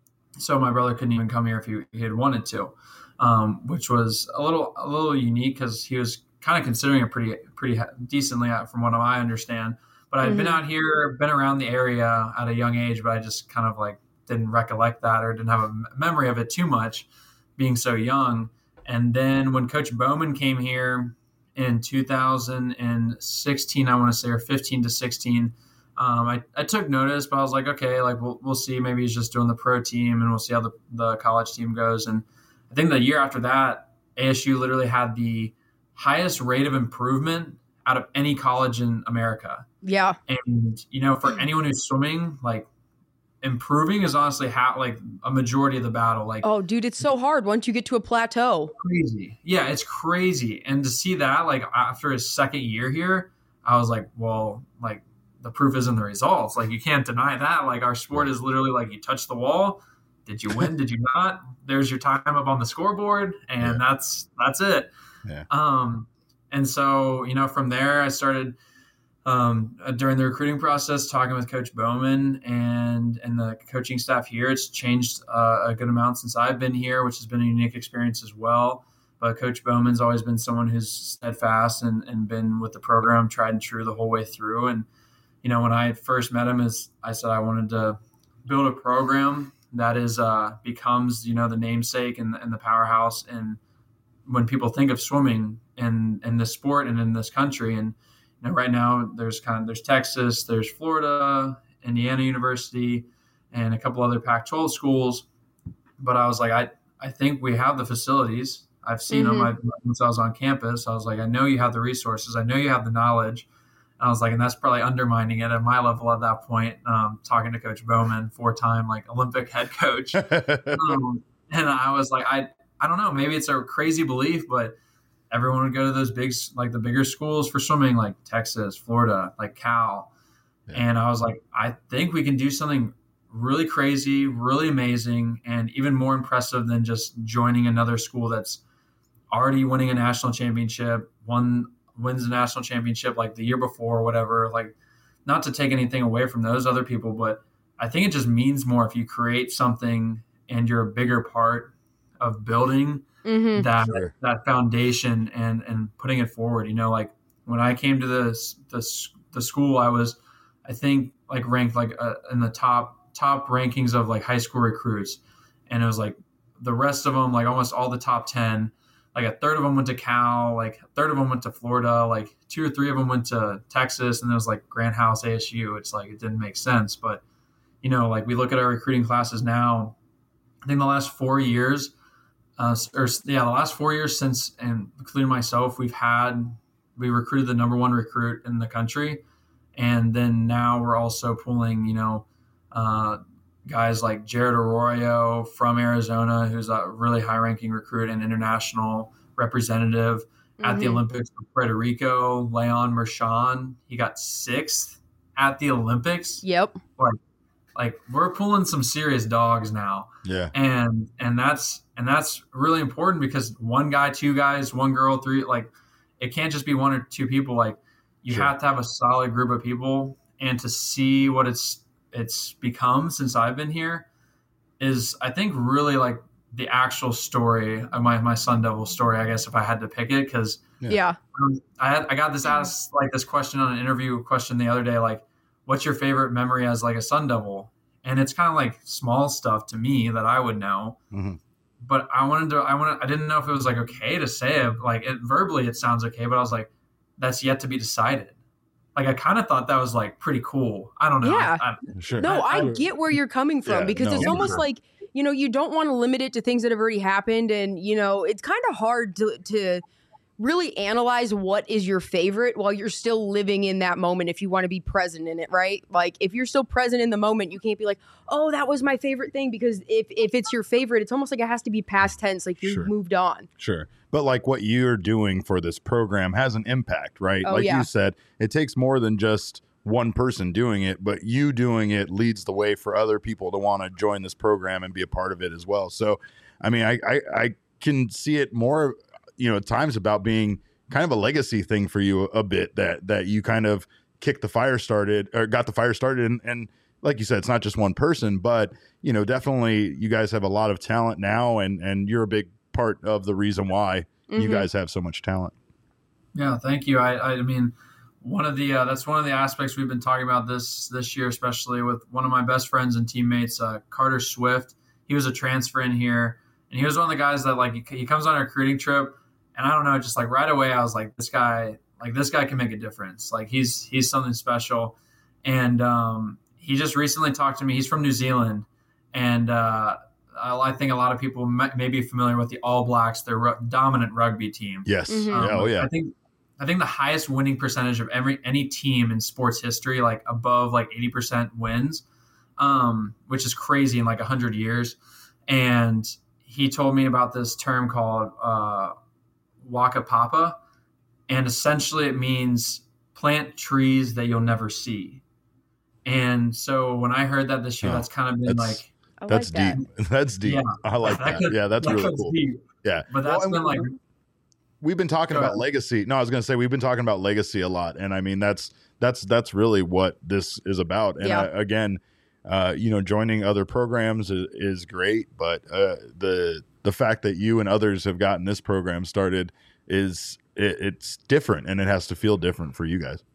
So my brother couldn't even come here if he, he had wanted to, um, which was a little a little unique because he was kind of considering it pretty pretty decently from what I understand. But I'd been Mhm. out here, been around the area at a young age, but I just kind of like didn't recollect that or didn't have a memory of it too much being so young. And then when Coach Bowman came here in two thousand sixteen, I want to say, or fifteen to sixteen, um, I, I took notice, but I was like, okay, like we'll, we'll see. Maybe he's just doing the pro team and we'll see how the, the college team goes. And I think the year after that, A S U literally had the highest rate of improvement out of any college in America. Yeah. And, you know, for anyone who's swimming, like, improving is honestly ha- like a majority of the battle. Like, Oh, dude, it's so hard once you get to a plateau. crazy. Yeah, it's crazy. And to see that, like, after his second year here, I was like, well, like, the proof is in the results. Like, you can't deny that. Like, our sport is literally like, you touch the wall. Did you win? Did you not? There's your time up on the scoreboard, and Yeah. that's that's it. Yeah. Um, and so, you know, from there, I started um, uh, during the recruiting process talking with Coach Bowman and and the coaching staff here. It's changed uh, a good amount since I've been here, which has been a unique experience as well. But Coach Bowman's always been someone who's steadfast and, and been with the program, tried and true the whole way through. And, you know, when I first met him, as I said, I wanted to build a program that is uh, becomes, you know, the namesake and, and the powerhouse. And when people think of swimming in, in this sport and in this country, and, you know, right now there's kind of there's Texas, there's Florida, Indiana University, and a couple other Pac twelve schools. But I was like, I, I think we have the facilities. I've seen mm-hmm. them I, since I was on campus. I was like, I know you have the resources. I know you have the knowledge. And I was like, and that's probably undermining it at my level at that point, um, talking to Coach Bowman, four-time like Olympic head coach. um, and I was like, I, I don't know, maybe it's a crazy belief, but everyone would go to those big, like the bigger schools for swimming, like Texas, Florida, like Cal. Yeah. And I was like, I think we can do something really crazy, really amazing, and even more impressive than just joining another school that's already winning a national championship, won wins a national championship like the year before or whatever. Like, not to take anything away from those other people, but I think it just means more if you create something and you're a bigger part of building mm-hmm. that sure. that foundation and and putting it forward. You know, like when I came to this this the school, I was I think like ranked like uh, in the top top rankings of like high school recruits, and it was like the rest of them, like almost all the top ten, like a third of them went to Cal, like a third of them went to Florida, like two or three of them went to Texas, and there was like Grant House, A S U. It's like it didn't make sense. But you know, like we look at our recruiting classes now, I think the last four years uh, or yeah the last four years since, and including myself, we've had we recruited the number one recruit in the country, and then now we're also pulling, you know, Uh, guys like Jared Arroyo from Arizona, who's a really high-ranking recruit and international representative mm-hmm. at the Olympics for Puerto Rico. Leon Mershon, he got sixth at the Olympics. Yep. Like, like we're pulling some serious dogs now. Yeah. And and that's and that's really important because one guy, two guys, one girl, three, like it can't just be one or two people. Like you sure. have to have a solid group of people, and to see what it's it's become since I've been here is, I think, really like the actual story of my, my Sun Devil story, I guess, if I had to pick it. Cause yeah, yeah. Um, I had, I got this asked like this question on an interview question the other day, like, what's your favorite memory as like a Sun Devil? And it's kind of like small stuff to me that I would know, mm-hmm. but I wanted to, I wanted, I didn't know if it was like, okay to say it, like it verbally, it sounds okay, but I was like, that's yet to be decided. Like, I kind of thought that was like pretty cool. I don't know. Yeah. I, I, sure. No, I, I get where you're coming from yeah, because no, it's almost sure. like, you know, you don't want to limit it to things that have already happened. And, you know, it's kind of hard to, to really analyze what is your favorite while you're still living in that moment if you want to be present in it, right? Like, if you're still present in the moment, you can't be like, oh, that was my favorite thing, because if, if it's your favorite, it's almost like it has to be past tense, like you've sure. moved on. Sure. But like what you're doing for this program has an impact, right? Oh, like yeah. you said, it takes more than just one person doing it, but you doing it leads the way for other people to want to join this program and be a part of it as well. So, I mean, I, I, I can see it more, you know, at times about being kind of a legacy thing for you a bit, that, that you kind of kicked the fire started or got the fire started. And, and like you said, it's not just one person, but, you know, definitely you guys have a lot of talent now, and, and you're a big part of the reason why mm-hmm. you guys have so much talent. Yeah, thank you. I, I mean, one of the uh, that's one of the aspects we've been talking about this this year, especially with one of my best friends and teammates, uh, Carter Swift. He was a transfer in here, and he was one of the guys that like he, he comes on a recruiting trip, and I don't know, just like right away I was like, this guy, like this guy can make a difference. Like he's he's something special, and um, he just recently talked to me. He's from New Zealand, and uh, I think a lot of people may be familiar with the All Blacks, their r- dominant rugby team. Yes. Mm-hmm. Um, oh, yeah. I think I think the highest winning percentage of every any team in sports history, like above like eighty percent wins, um, which is crazy in like one hundred years. And he told me about this term called uh, Waka Papa, and essentially it means plant trees that you'll never see. And so when I heard that this year, oh, that's kind of been like – I That's like deep. That. That's deep. Yeah. I like that. that. Could, yeah, that's that really cool. Deep. Yeah. But that's well, been like we've been talking about legacy. No, I was going to say we've been talking about legacy a lot, and I mean that's that's that's really what this is about. And yeah. I, again, uh, you know, joining other programs is, is great, but uh, the the fact that you and others have gotten this program started is it, it's different, and it has to feel different for you guys.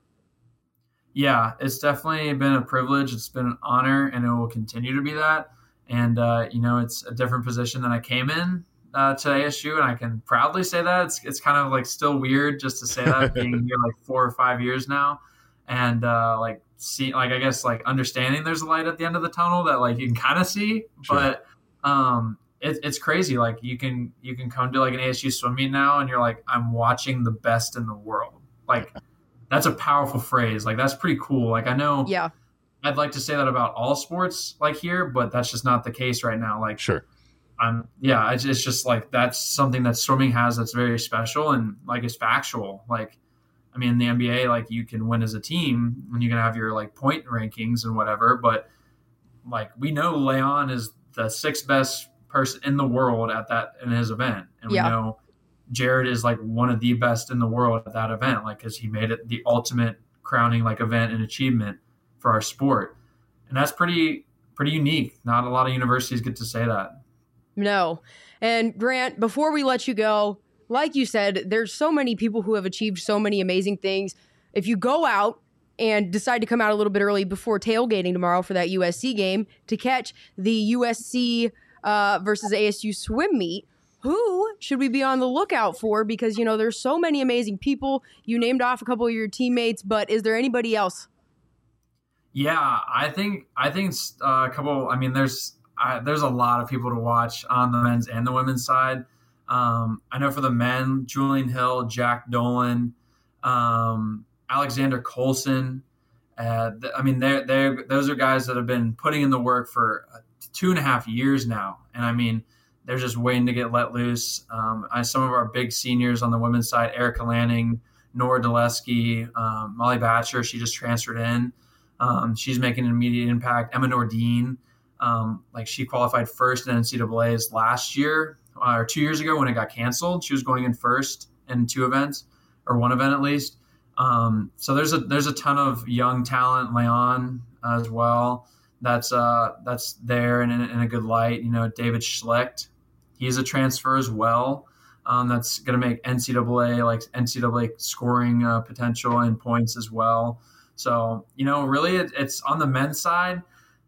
Yeah, it's definitely been a privilege. It's been an honor, and it will continue to be that. And, uh, you know, it's a different position than I came in uh, to A S U, and I can proudly say that. It's it's kind of like still weird just to say that, being here like four or five years now, and uh, like see, like I guess like understanding there's a light at the end of the tunnel that like you can kind of see, sure. but um, it, it's crazy. Like you can you can come to like an A S U swim meet now, and you're like, I'm watching the best in the world. Like that's a powerful phrase. Like that's pretty cool. Like I know. Yeah. I'd like to say that about all sports like here, but that's just not the case right now. Like, sure. I'm, yeah, it's, it's just like, that's something that swimming has that's very special and like it's factual. Like, I mean, in the N B A, like you can win as a team and you can have your like point rankings and whatever, but like we know Leon is the sixth best person in the world at that, in his event. And yeah. we know Jared is like one of the best in the world at that event. Like, cause he made it the ultimate crowning like event and achievement for our sport. And that's pretty, pretty unique. Not a lot of universities get to say that. No. And Grant, before we let you go, like you said, there's so many people who have achieved so many amazing things. If you go out and decide to come out a little bit early before tailgating tomorrow for that U S C game to catch the U S C uh, versus A S U swim meet, who should we be on the lookout for? Because, you know, there's so many amazing people. You named off a couple of your teammates, but is there anybody else? Yeah, I think I think uh, a couple. I mean, there's uh, there's a lot of people to watch on the men's and the women's side. Um, I know for the men, Julian Hill, Jack Dolan, um, Alexander Colson. Uh, th- I mean, they they those are guys that have been putting in the work for two and a half years now, and I mean, they're just waiting to get let loose. Um, I, some of our big seniors on the women's side, Erica Lanning, Nora Dulesky, um, Molly Batcher, she just transferred in. Um, she's making an immediate impact. Emma Nordine, um, like she qualified first in N C double A's last year uh, or two years ago when it got canceled. She was going in first in two events or one event at least. Um, so there's a there's a ton of young talent, Leon as well. That's uh that's there and in, in a good light. You know, David Schlecht, he's a transfer as well. Um, that's going to make N C double A like N C double A scoring uh, potential and points as well. So, you know, really it, it's on the men's side.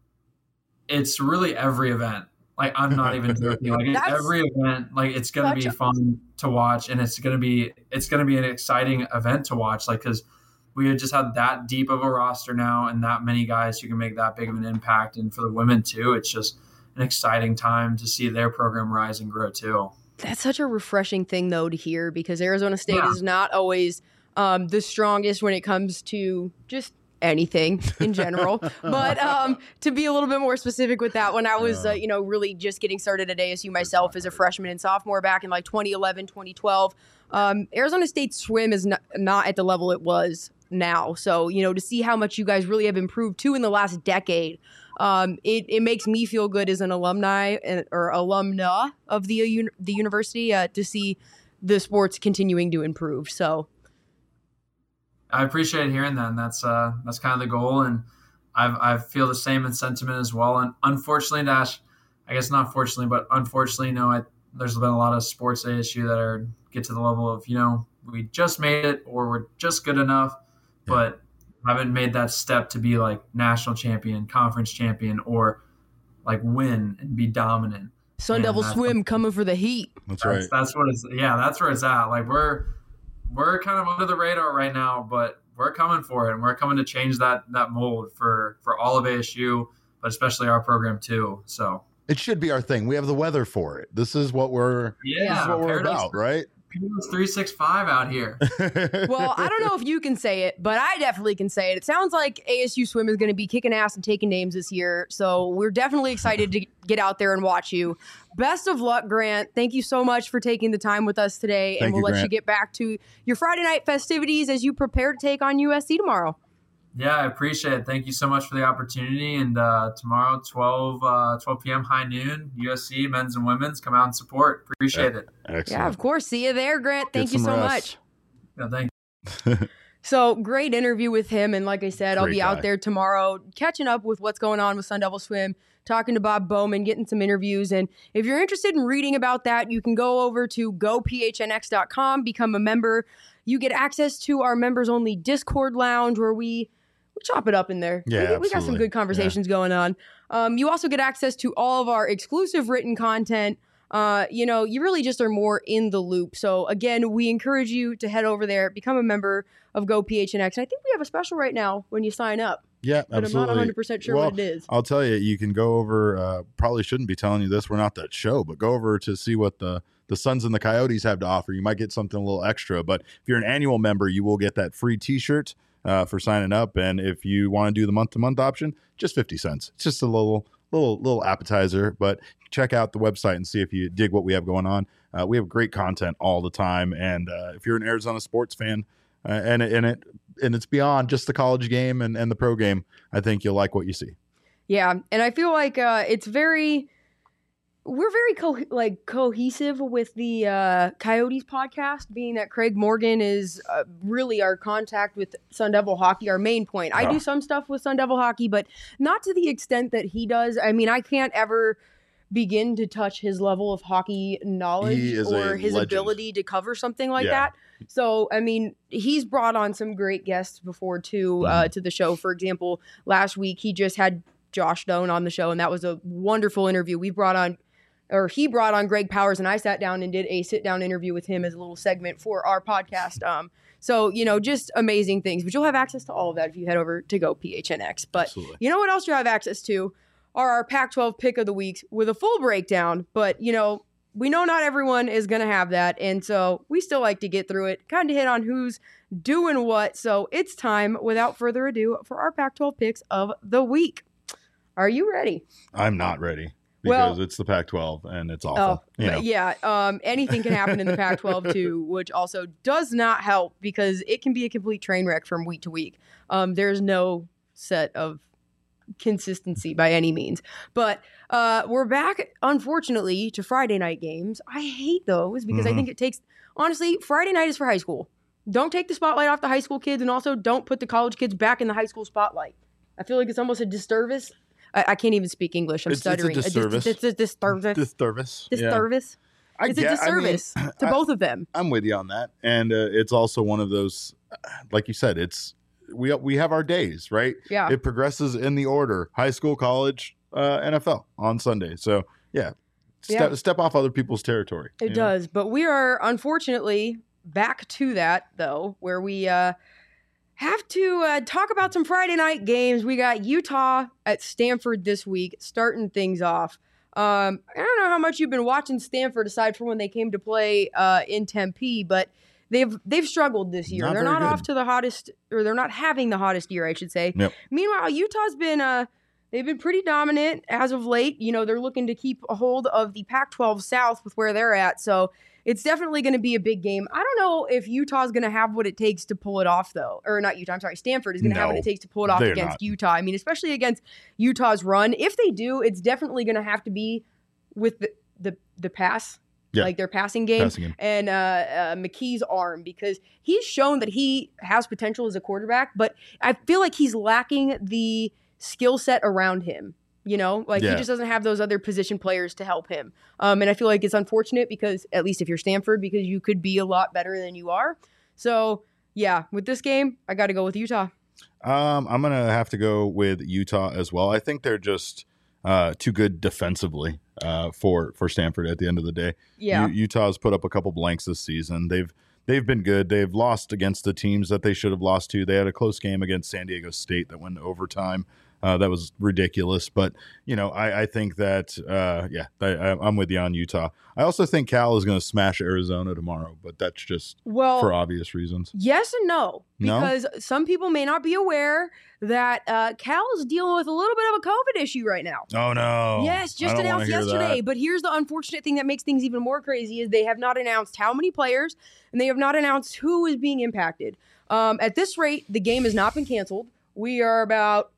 It's really every event. Like, I'm not even joking. Like it's every event, like it's going to be fun to watch. And it's going to be, it's going to be an exciting event to watch. Like, cause we just have that deep of a roster now and that many guys who can make that big of an impact. And for the women too, it's just an exciting time to see their program rise and grow too. That's such a refreshing thing though to hear, because Arizona State yeah. is not always Um, the strongest when it comes to just anything in general. But um, to be a little bit more specific with that, when I was, uh, you know, really just getting started at A S U myself as a freshman and sophomore back in like twenty eleven, twenty twelve, um, Arizona State swim is not, not at the level it was now. So, you know, to see how much you guys really have improved too in the last decade, um, it, it makes me feel good as an alumni and, or alumna of the, uh, the university uh, to see the sports continuing to improve. So, I appreciate hearing that, and that's uh, that's kind of the goal, and I've, I feel the same in sentiment as well. And unfortunately, Dash, I guess not fortunately, but unfortunately, no, I, there's been a lot of sports A S U that are get to the level of, you know, we just made it or we're just good enough, yeah. but haven't made that step to be like national champion, conference champion, or like win and be dominant. Sun Devil Swim coming for the heat. That's right. That's, that's what it's. Yeah, that's where it's at. Like we're. We're kind of under the radar right now, but we're coming for it, and we're coming to change that that mold for, for all of A S U, but especially our program too. So it should be our thing. We have the weather for it. This is what we're yeah, this is what we're Paradise, about, right? It's three sixty-five out here. Well, I don't know if you can say it, but I definitely can say it. It sounds like A S U Swim is going to be kicking ass and taking names this year. So we're definitely excited to get out there and watch you. Best of luck, Grant. Thank you so much for taking the time with us today. Thank and we'll you, let Grant. you get back to your Friday night festivities as you prepare to take on U S C tomorrow. Yeah, I appreciate it. Thank you so much for the opportunity. And uh, tomorrow, twelve p.m. high noon, U S C men's and women's, come out and support. Appreciate it. Excellent. Yeah, of course. See you there, Grant. Thank Get you some so rest. much. Yeah, thank you. So great interview with him. And like I said, I'll Great be guy. out there tomorrow catching up with what's going on with Sun Devil Swim, talking to Bob Bowman, getting some interviews. And if you're interested in reading about that, you can go over to go p h n x dot com, become a member. You get access to our members only Discord lounge where we we chop it up in there. Yeah, we, we got some absolutely. good conversations going on. Um, you also get access to all of our exclusive written content. uh, you know, you really just are more in the loop. So again, we encourage you to head over there, become a member of Go P H N X. And I think we have a special right now when you sign up. Yeah, but absolutely. I'm not one hundred percent sure well, what it is. I'll tell you, you can go over, uh, probably shouldn't be telling you this, we're not that show, but go over to see what the, the Suns and the Coyotes have to offer. You might get something a little extra, but if you're an annual member, you will get that free t-shirt uh, for signing up. And if you want to do the month-to-month option, just fifty cents. It's just a little little little appetizer, but check out the website and see if you dig what we have going on. Uh, we have great content all the time. And uh, if you're an Arizona sports fan, uh, and, and it and it's beyond just the college game and, and the pro game, I think you'll like what you see. Yeah, and I feel like uh, it's very, we're very co- like cohesive with the uh, Coyotes podcast, being that Craig Morgan is uh, really our contact with Sun Devil hockey, our main point. I Oh. do some stuff with Sun Devil hockey, but not to the extent that he does. I mean, I can't ever begin to touch his level of hockey knowledge He is or a his legend. ability to cover something like Yeah. that. So, I mean, he's brought on some great guests before too uh, Mhm. to the show. For example, last week he just had Josh Doan on the show, and that was a wonderful interview. We brought on, or he brought on Greg Powers, and I sat down and did a sit-down interview with him as a little segment for our podcast. Um, so, you know, just amazing things. But you'll have access to all of that if you head over to Go P H N X. But Absolutely. you know what else you have access to are our Pac twelve pick of the weeks with a full breakdown. But, you know, we know not everyone is going to have that. And so we still like to get through it, kind of hit on who's doing what. So it's time, without further ado, for our Pac twelve picks of the week. Are you ready? I'm not ready Well- because it's the Pac twelve and it's awful. Oh, you know? but yeah. Um, anything can happen in the Pac twelve too, which also does not help because it can be a complete train wreck from week to week. Um, there's no set of consistency by any means. But uh, we're back, unfortunately, to Friday night games. I hate those because I Mhm. think it takes, honestly, Friday night is for high school. Don't take the spotlight off the high school kids, and also don't put the college kids back in the high school spotlight. I feel like it's almost a disservice. I, I can't even speak English. I'm It's- it's a stuttering. dis- disservice. It's a disservice. Disservice. Yeah. Disservice. I It's a get- I mean, disservice to I- both of them. I'm with you on that, and uh, it's also one of those, like you said, it's we we have our days, right? Yeah. It progresses in the order: high school, college, uh, N F L on Sunday. So yeah, step Yeah. step off other people's territory. It you know? does. But we are unfortunately back to that, though, where we uh, have to uh, talk about some Friday night games. We got Utah at Stanford this week, starting things off. Um, I don't know how much you've been watching Stanford aside from when they came to play uh, in Tempe, but they've they've struggled this year. Not they're very not good. off to the hottest, or they're not having the hottest year, I should say. Yep. Meanwhile, Utah's been uh, they've been pretty dominant as of late. You know, they're looking to keep a hold of the Pac twelve South with where they're at, so it's definitely going to be a big game. I don't know if Utah's going to have what it takes to pull it off, though. Or not Utah, I'm sorry. Stanford is going to have what No, it takes to pull it off they're against not. Utah. I mean, especially against Utah's run. If they do, it's definitely going to have to be with the the, the pass, Yeah. like their passing game, Passing game. and uh, uh, McKee's arm, because he's shown that he has potential as a quarterback, but I feel like he's lacking the skill set around him. You know, like Yeah. he just doesn't have those other position players to help him. Um, and I feel like it's unfortunate because, at least if you're Stanford, because you could be a lot better than you are. So, yeah, with this game, I got to go with Utah. Um, I'm gonna have to go with Utah as well. I think they're just uh, too good defensively uh, for for Stanford at the end of the day. Yeah. U- Utah's put up a couple blanks this season. They've they've been good. They've lost against the teams that they should have lost to. They had a close game against San Diego State that went to overtime. Uh, that was ridiculous. But, you know, I, I think that, uh, yeah, I, I- I'm with you on Utah. I also think Cal is going to smash Arizona tomorrow, but that's just well, for obvious reasons. yes and no, No? because some people may not be aware that uh, Cal is dealing with a little bit of a COVID issue right now. Oh, no. Yes, I just don't wanna announced hear yesterday. that. But here's the unfortunate thing that makes things even more crazy is they have not announced how many players, and they have not announced who is being impacted. Um, at this rate, the game has not been canceled. We are about,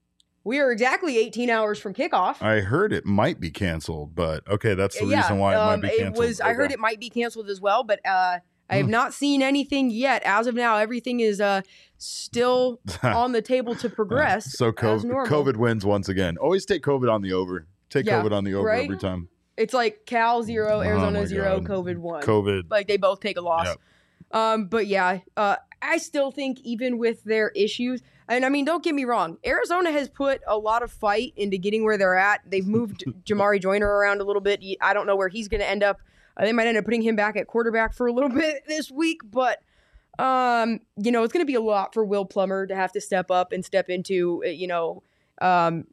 we are exactly eighteen hours from kickoff. I heard it might be canceled, but okay, that's the yeah, reason why it um, might be canceled. was. I heard Okay. it might be canceled as well, but uh, I have Hmm. not seen anything yet. As of now, everything is uh, still on the table to progress. So as COVID, normal. COVID wins once again. Always take COVID on the over. Take Yeah, COVID on the over right? every time. It's like Cal zero, Oh Arizona my zero, God. COVID one. COVID. Like they both take a loss. Yep. Um, but yeah, uh, I still think even with their issues, and I mean, don't get me wrong, Arizona has put a lot of fight into getting where they're at. They've moved Jamari Joyner around a little bit. I don't know where he's going to end up. Uh, they might end up putting him back at quarterback for a little bit this week, but um, you know, it's going to be a lot for Will Plummer to have to step up and step into, you know, um,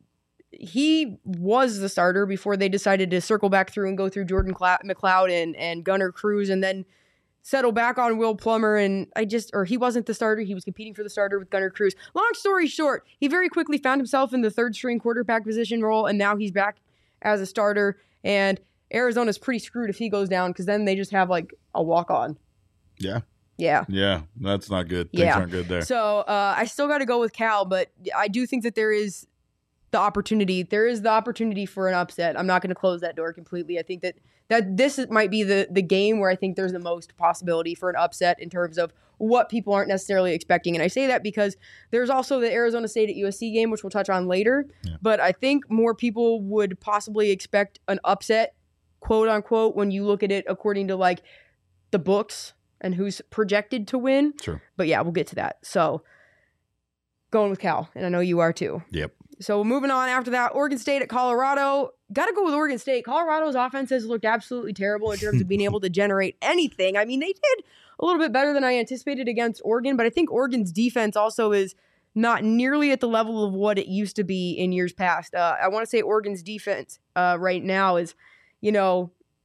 he was the starter before they decided to circle back through and go through Jordan Cla- McLeod and, and Gunnar Cruz and then settle back on Will Plummer. And I just, or he wasn't the starter. He was competing for the starter with Gunnar Cruz. Long story short, he very quickly found himself in the third string quarterback position role. And now he's back as a starter. And Arizona's pretty screwed if he goes down because then they just have like a walk on. Yeah. Yeah. Yeah. That's not good. Things Yeah. aren't good there. So uh, I still got to go with Cal, but I do think that there is the opportunity. There is the opportunity for an upset. I'm not going to close that door completely. I think that, that this is, might be the, the game where I think there's the most possibility for an upset in terms of what people aren't necessarily expecting. And I say that because there's also the Arizona State at U S C game, which we'll touch on later. Yeah. But I think more people would possibly expect an upset, quote unquote, when you look at it according to like the books and who's projected to win. Sure. But yeah, we'll get to that. So going with Cal, and I know you are too. Yep. So moving on after that, Oregon State at Colorado. Got to go with Oregon State. Colorado's offense has looked absolutely terrible in terms of being able to generate anything. I mean, they did a little bit better than I anticipated against Oregon, but I think Oregon's defense also is not nearly at the level of what it used to be in years past. Uh, I want to say Oregon's defense uh, right now is, you know,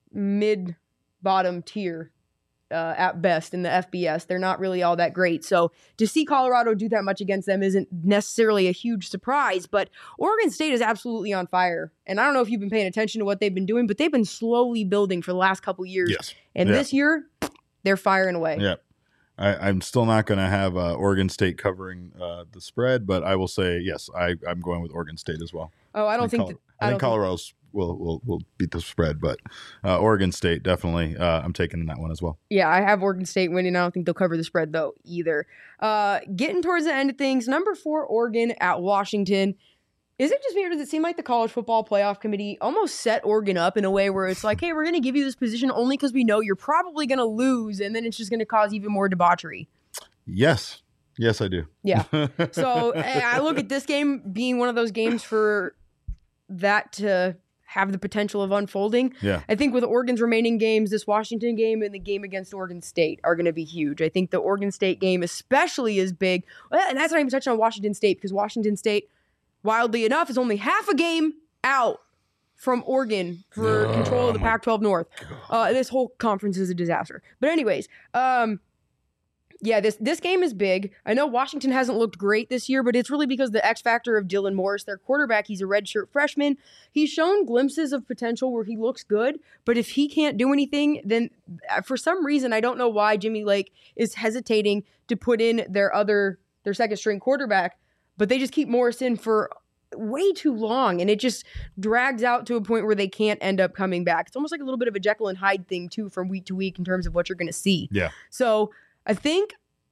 mid-bottom tier. Uh, at best in the F B S. They're not really all that great. So to see Colorado do that much against them isn't necessarily a huge surprise, but Oregon State is absolutely on fire. And I don't know if you've been paying attention to what they've been doing, but they've been slowly building for the last couple years. Yes. And Yeah. this year, they're firing away. Yeah. I, I'm still not going to have uh, Oregon State covering uh, the spread, but I will say, yes, I, I'm going with Oregon State as well. Oh, I don't think, Col- that, I, I think don't Colorado's will will will beat the spread, but uh, Oregon State definitely. Uh, I'm taking that one as well. Yeah, I have Oregon State winning. I don't think they'll cover the spread, though, either. Uh, getting towards the end of things, number four, Oregon at Washington. Is it just me, or does it seem like the College Football Playoff Committee almost set Oregon up in a way where it's like, hey, we're going to give you this position only because we know you're probably going to lose, and then it's just going to cause even more debauchery? Yes. Yes, I do. Yeah. So I look at this game being one of those games for that to have the potential of unfolding. Yeah. I think with Oregon's remaining games, this Washington game and the game against Oregon State are going to be huge. I think the Oregon State game especially is big. And that's not even touching on Washington State, because Washington State, wildly enough, is only half a game out from Oregon for Oh, control of the my Pac twelve North. Uh, this whole conference is a disaster. But anyways, um, yeah, this this game is big. I know Washington hasn't looked great this year, but it's really because the X factor of Dylan Morris, their quarterback. He's a redshirt freshman. He's shown glimpses of potential where he looks good, but if he can't do anything, then for some reason, I don't know why Jimmy Lake is hesitating to put in their other, their second string quarterback, but they just keep Morris in for way too long, and it just drags out to a point where they can't end up coming back. It's almost like a little bit of a Jekyll and Hyde thing too, from week to week in terms of what you're going to see. Yeah. So I think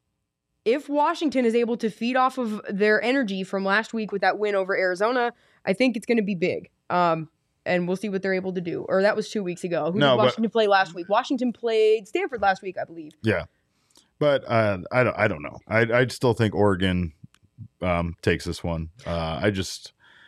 if Washington is able to feed off of their energy from last week with that win over Arizona, I think it's going to be big. Um, and we'll see what they're able to do. Or that was two weeks ago. Who No, did but- Washington play last week? Washington played Stanford last week, I believe. Yeah. But uh, I don't. I don't know. I I still think Oregon um, takes this one. Uh, I just.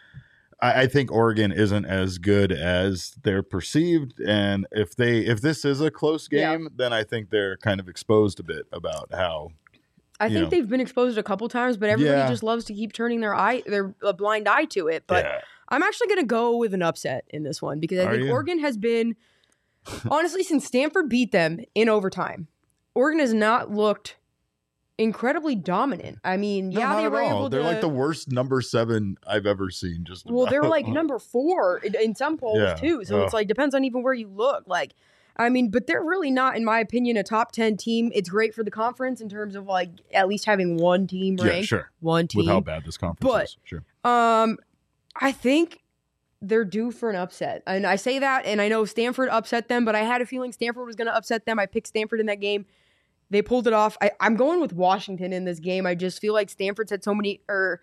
I, I think Oregon isn't as good as they're perceived, and if they if this is a close game, Yeah. then I think they're kind of exposed a bit about how. I You think know. they've been exposed a couple times, but everybody Yeah. just loves to keep turning their eye, their a blind eye to it. But yeah. I'm actually going to go with an upset in this one because I Are think you? Oregon has been, honestly, since Stanford beat them in overtime, Oregon has not looked incredibly dominant. I mean, No, yeah, not they at were all. able They're to. like the worst number seven I've ever seen. Just Well, they're about. like number four in, in some polls Yeah. too. So it's Oh. like depends on even where you look. Like, I mean, but they're really not, in my opinion, a top ten team. It's great for the conference in terms of like at least having one team Yeah, ranked, sure. one team. With how bad this conference But- is, sure. Um, I think they're due for an upset. And I say that, and I know Stanford upset them, but I had a feeling Stanford was going to upset them. I picked Stanford in that game. They pulled it off. I, I'm going with Washington in this game. I just feel like Stanford's had so many, or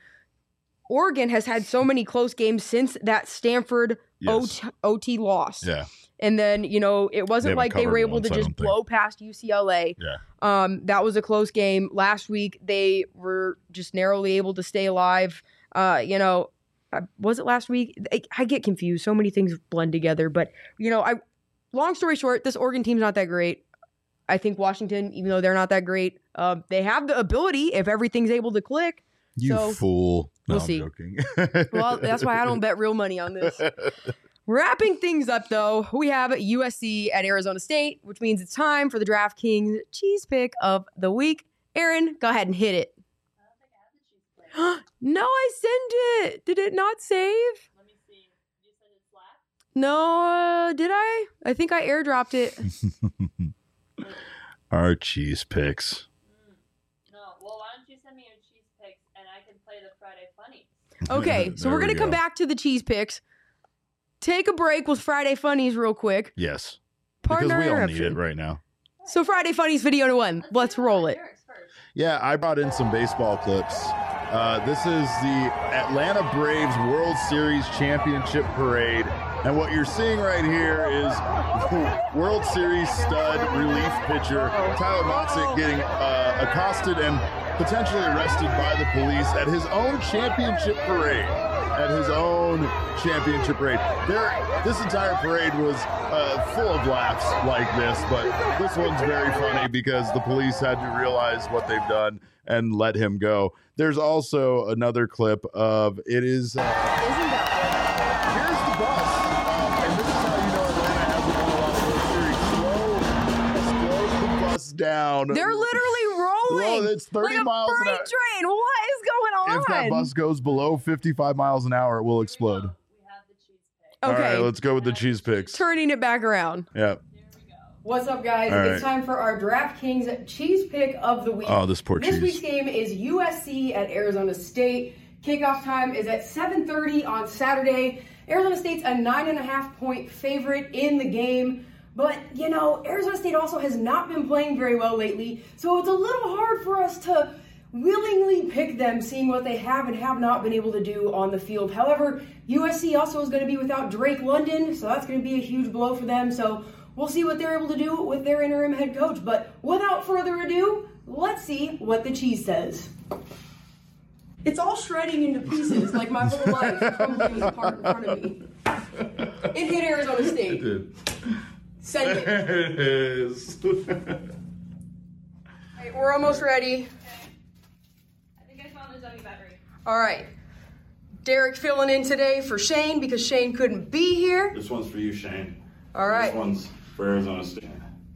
Oregon has had so many close games since that Stanford Yes. O T, O T loss. Yeah. And then, you know, it wasn't haven't like they were covered able once, to I just don't think. blow past U C L A. Yeah. Um, that was a close game. Last week, they were just narrowly able to stay alive. Uh, you know, uh, was it last week? I, I get confused. So many things blend together. But, you know, I. long story short, this Oregon team's not that great. I think Washington, even though they're not that great, uh, they have the ability if everything's able to click. You So, fool. No, we'll I'm see. joking. Well, that's why I don't bet real money on this. Wrapping things up, though, we have U S C at Arizona State, which means it's time for the DraftKings cheese pick of the week. Aaron, go ahead and hit it. No, I sent it. Did it not save? Let me see. You said it's last? No, uh, did I? I think I airdropped it. Our cheese picks. No. Well, why don't you send me your cheese picks and I can play the Friday Funnies? Okay, so There we're we going to come go. back to the cheese picks. Take a break with Friday Funnies real quick. Yes. Pardon Because our we all need interruption. it right now. So Friday Funnies video to one. Let's do roll it. Eric's first. Yeah, I brought in some baseball clips. Uh, this is the Atlanta Braves World Series Championship Parade. And what you're seeing right here is World Series stud relief pitcher Tyler Motzik getting uh, accosted and potentially arrested by the police at his own championship parade. At his own championship parade. There, this entire parade was uh, full of laughs like this, but this one's very funny because the police had to realize what they've done and let him go. There's also another clip of it is. Uh, Isn't that here's the bus, um, and this is how you know Atlanta hasn't won a lot of World Series. Slow, slow the bus down. They're literally rolling. Well, it's thirty like a miles an freight hour. train. What is going on? If that bus goes below fifty-five miles an hour, it will explode. We have the cheese pick. Okay, All right, let's go with the cheese picks. turning it back around. Yeah. Here we go. What's up, guys? All It's right. time for our DraftKings cheese pick of the week. Oh, this poor This cheese. week's game is U S C at Arizona State. Kickoff time is at seven thirty on Saturday. Arizona State's a nine and a half point favorite in the game. But, you know, Arizona State also has not been playing very well lately, so it's a little hard for us to willingly pick them, seeing what they have and have not been able to do on the field. However, U S C also is going to be without Drake London, so that's going to be a huge blow for them. So we'll see what they're able to do with their interim head coach. But without further ado, let's see what the cheese says. It's all shredding into pieces, like my whole life crumbling apart in front of me. It hit Arizona State. Send it. There it is. Right, we're almost ready. I think I found the dummy battery. All right. Derek filling in today for Shane because Shane couldn't be here. This one's for you, Shane. All right. This one's for Arizona State.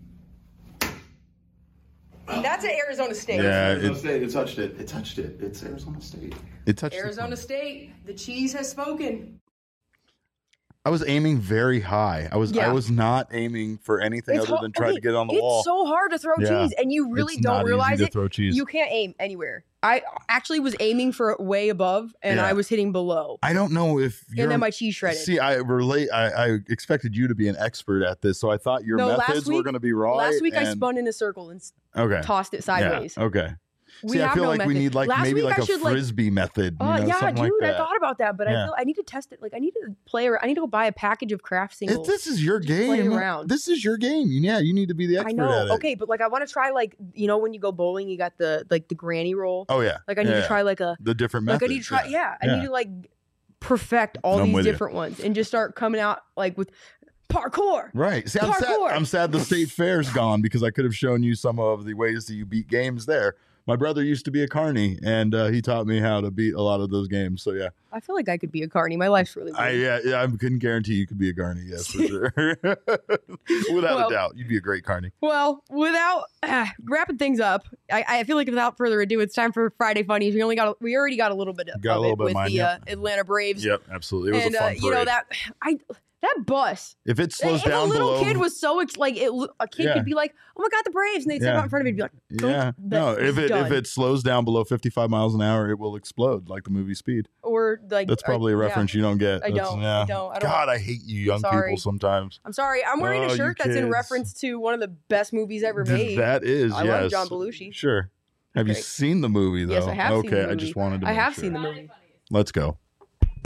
That's at Arizona State. Yeah, Arizona it, State. It touched it. It touched it. It's Arizona State. it touched the Arizona phone. State. The cheese has spoken. I was aiming very high. I was I Yeah. was not aiming for anything other ho- than trying okay, to get it on the it's wall. so hard to throw Yeah. cheese, and you really It's don't not easy realize to it. throw cheese. You can't aim anywhere. I actually was aiming for way above, and Yeah. I was hitting below, I don't know if you're and then my cheese shredded. See, I relate. I, I expected you to be an expert at this, so I thought your No, last methods were week- going to be right. Last week I and- spun in a circle and s- Okay. tossed it sideways. Yeah, okay. We See, I have feel no like we method. need like Last maybe week like I a should, like- frisbee method. You Oh know, yeah, something dude! like I that. thought about that, but I Yeah. feel I need to test it. Like I need to play around. I need to go buy a package of craft If singles. this is your Just play game. around. This is your game. Yeah, you need to be the expert I know. at it. Okay, but like I want to try like you know when you go bowling, you got the like the granny roll. Oh yeah. Like I need yeah, to yeah. try like a the different like methods. I need to try. Yeah, I Yeah. need to like perfect all I'm these with you. different ones and just start coming out like with parkour. Right. See, I'm sad, Parkour. I'm sad the state fair's gone because I could have shown you some of the ways that you beat games there. My brother used to be a carny, and uh, he taught me how to beat a lot of those games. So yeah, I feel like I could be a carny. My life's really. I weird. yeah, yeah I couldn't guarantee you could be a carny. Yes, for sure. Without Well- a doubt, you'd be a great carny. Well, without uh, wrapping things up, I, I feel like without further ado, it's time for Friday Funnies. We only got a, we already got a little bit of, Got a of little it bit of with mine, the yep. uh, Atlanta Braves. Yep, absolutely. It was and a fun uh, you know parade. that I that bus. If it slows if down a little below, kid was so ex- like it, a kid Yeah. could be like, "Oh my god, the Braves!" and they'd sit Yeah. out in front of it and be like, "Don't." yeah, no. That- If it's it if done. it slows down below fifty-five miles an hour, it will explode like the movie Speed. or like That's probably a I- yeah. reference you don't get. I That's- don't, Yeah. I don't, I don't. God, I hate you young Sorry. people sometimes. I'm sorry. I'm wearing Oh, a you shirt that's in kids. reference to one of the best movies ever Th- made. That is, I yes. love John Belushi. Sure. Have you Okay. seen the movie though? Yes, I have okay, seen the I movie. just wanted to. I make have sure. seen the Friday movie. Funnies. Let's go.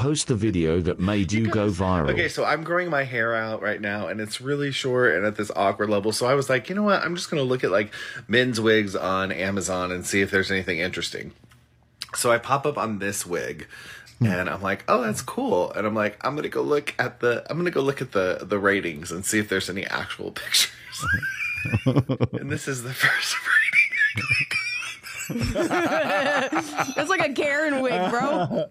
post the video that made you go viral. Okay, so I'm growing my hair out right now, and it's really short and at this awkward level. So I was like, you know what? I'm just going to look at like men's wigs on Amazon and see if there's anything interesting. So I pop up on this wig, and I'm like, oh, that's cool. And I'm like, I'm gonna go look at the I'm gonna go look at the the ratings and see if there's any actual pictures. And this is the first rating. That's like a Karen wig, bro.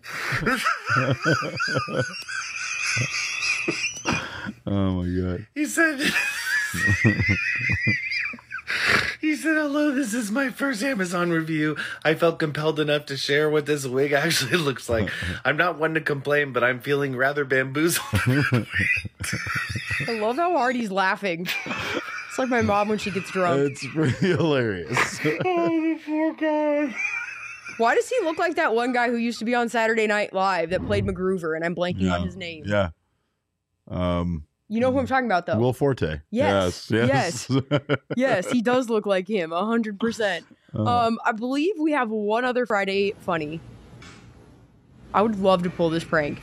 Oh my god. He said He said, hello, this is my first Amazon review. I felt compelled enough to share what this wig actually looks like. I'm not one to complain, but I'm feeling rather bamboozled. I love how hard he's laughing. It's like my mom when she gets drunk. It's pretty hilarious. Oh, poor guy. Why does he look like that one guy who used to be on Saturday Night Live that played MacGruver, and I'm blanking Yeah. on his name? Yeah. Um, You know who I'm talking about, though. Will Forte. Yes. Yes. Yes. Yes, he does look like him, one hundred percent. Uh, Um, I believe we have one other Friday funny. I would love to pull this prank.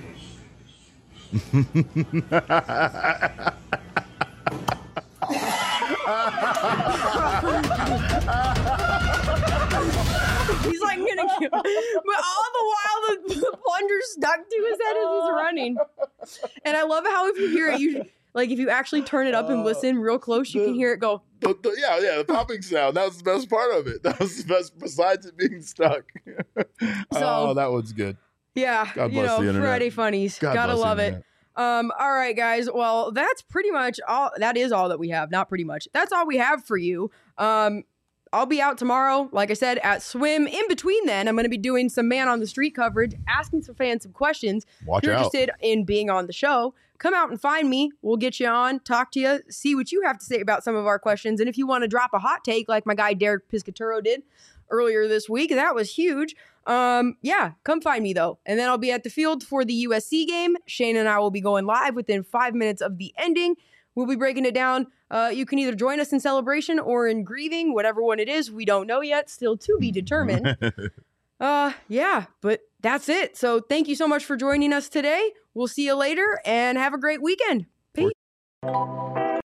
He's like gonna kill, but all the while the, the plunger stuck to his head as he's running. And I love how if you hear it, you like if you actually turn it up and listen real close, you can hear it go. the, the, yeah, yeah, the popping sound. That was the best part of it. That was the best, besides it being stuck. Oh, that one's good. Yeah, God you bless know, the internet. Friday funnies. God Gotta bless the love it. internet. Um, all right, guys. Well, that's pretty much all. That is all that we have. Not pretty much. That's all we have for you. Um, I'll be out tomorrow, like I said, at Swim. In between then, I'm going to be doing some man on the street coverage, asking some fans some questions. Watch if you're out. interested in being on the show, come out and find me. We'll get you on, talk to you, see what you have to say about some of our questions. And if you want to drop a hot take like my guy Derek Piscaturo did earlier this week, that was huge. Um, yeah, come find me though. And then I'll be at the field for the U S C game. Shane and I will be going live within five minutes of the ending. We'll be breaking it down. Uh, you can either join us in celebration or in grieving, whatever one it is. We don't know yet. Still to be determined. uh, yeah, but that's it. So thank you so much for joining us today. We'll see you later and have a great weekend. Peace.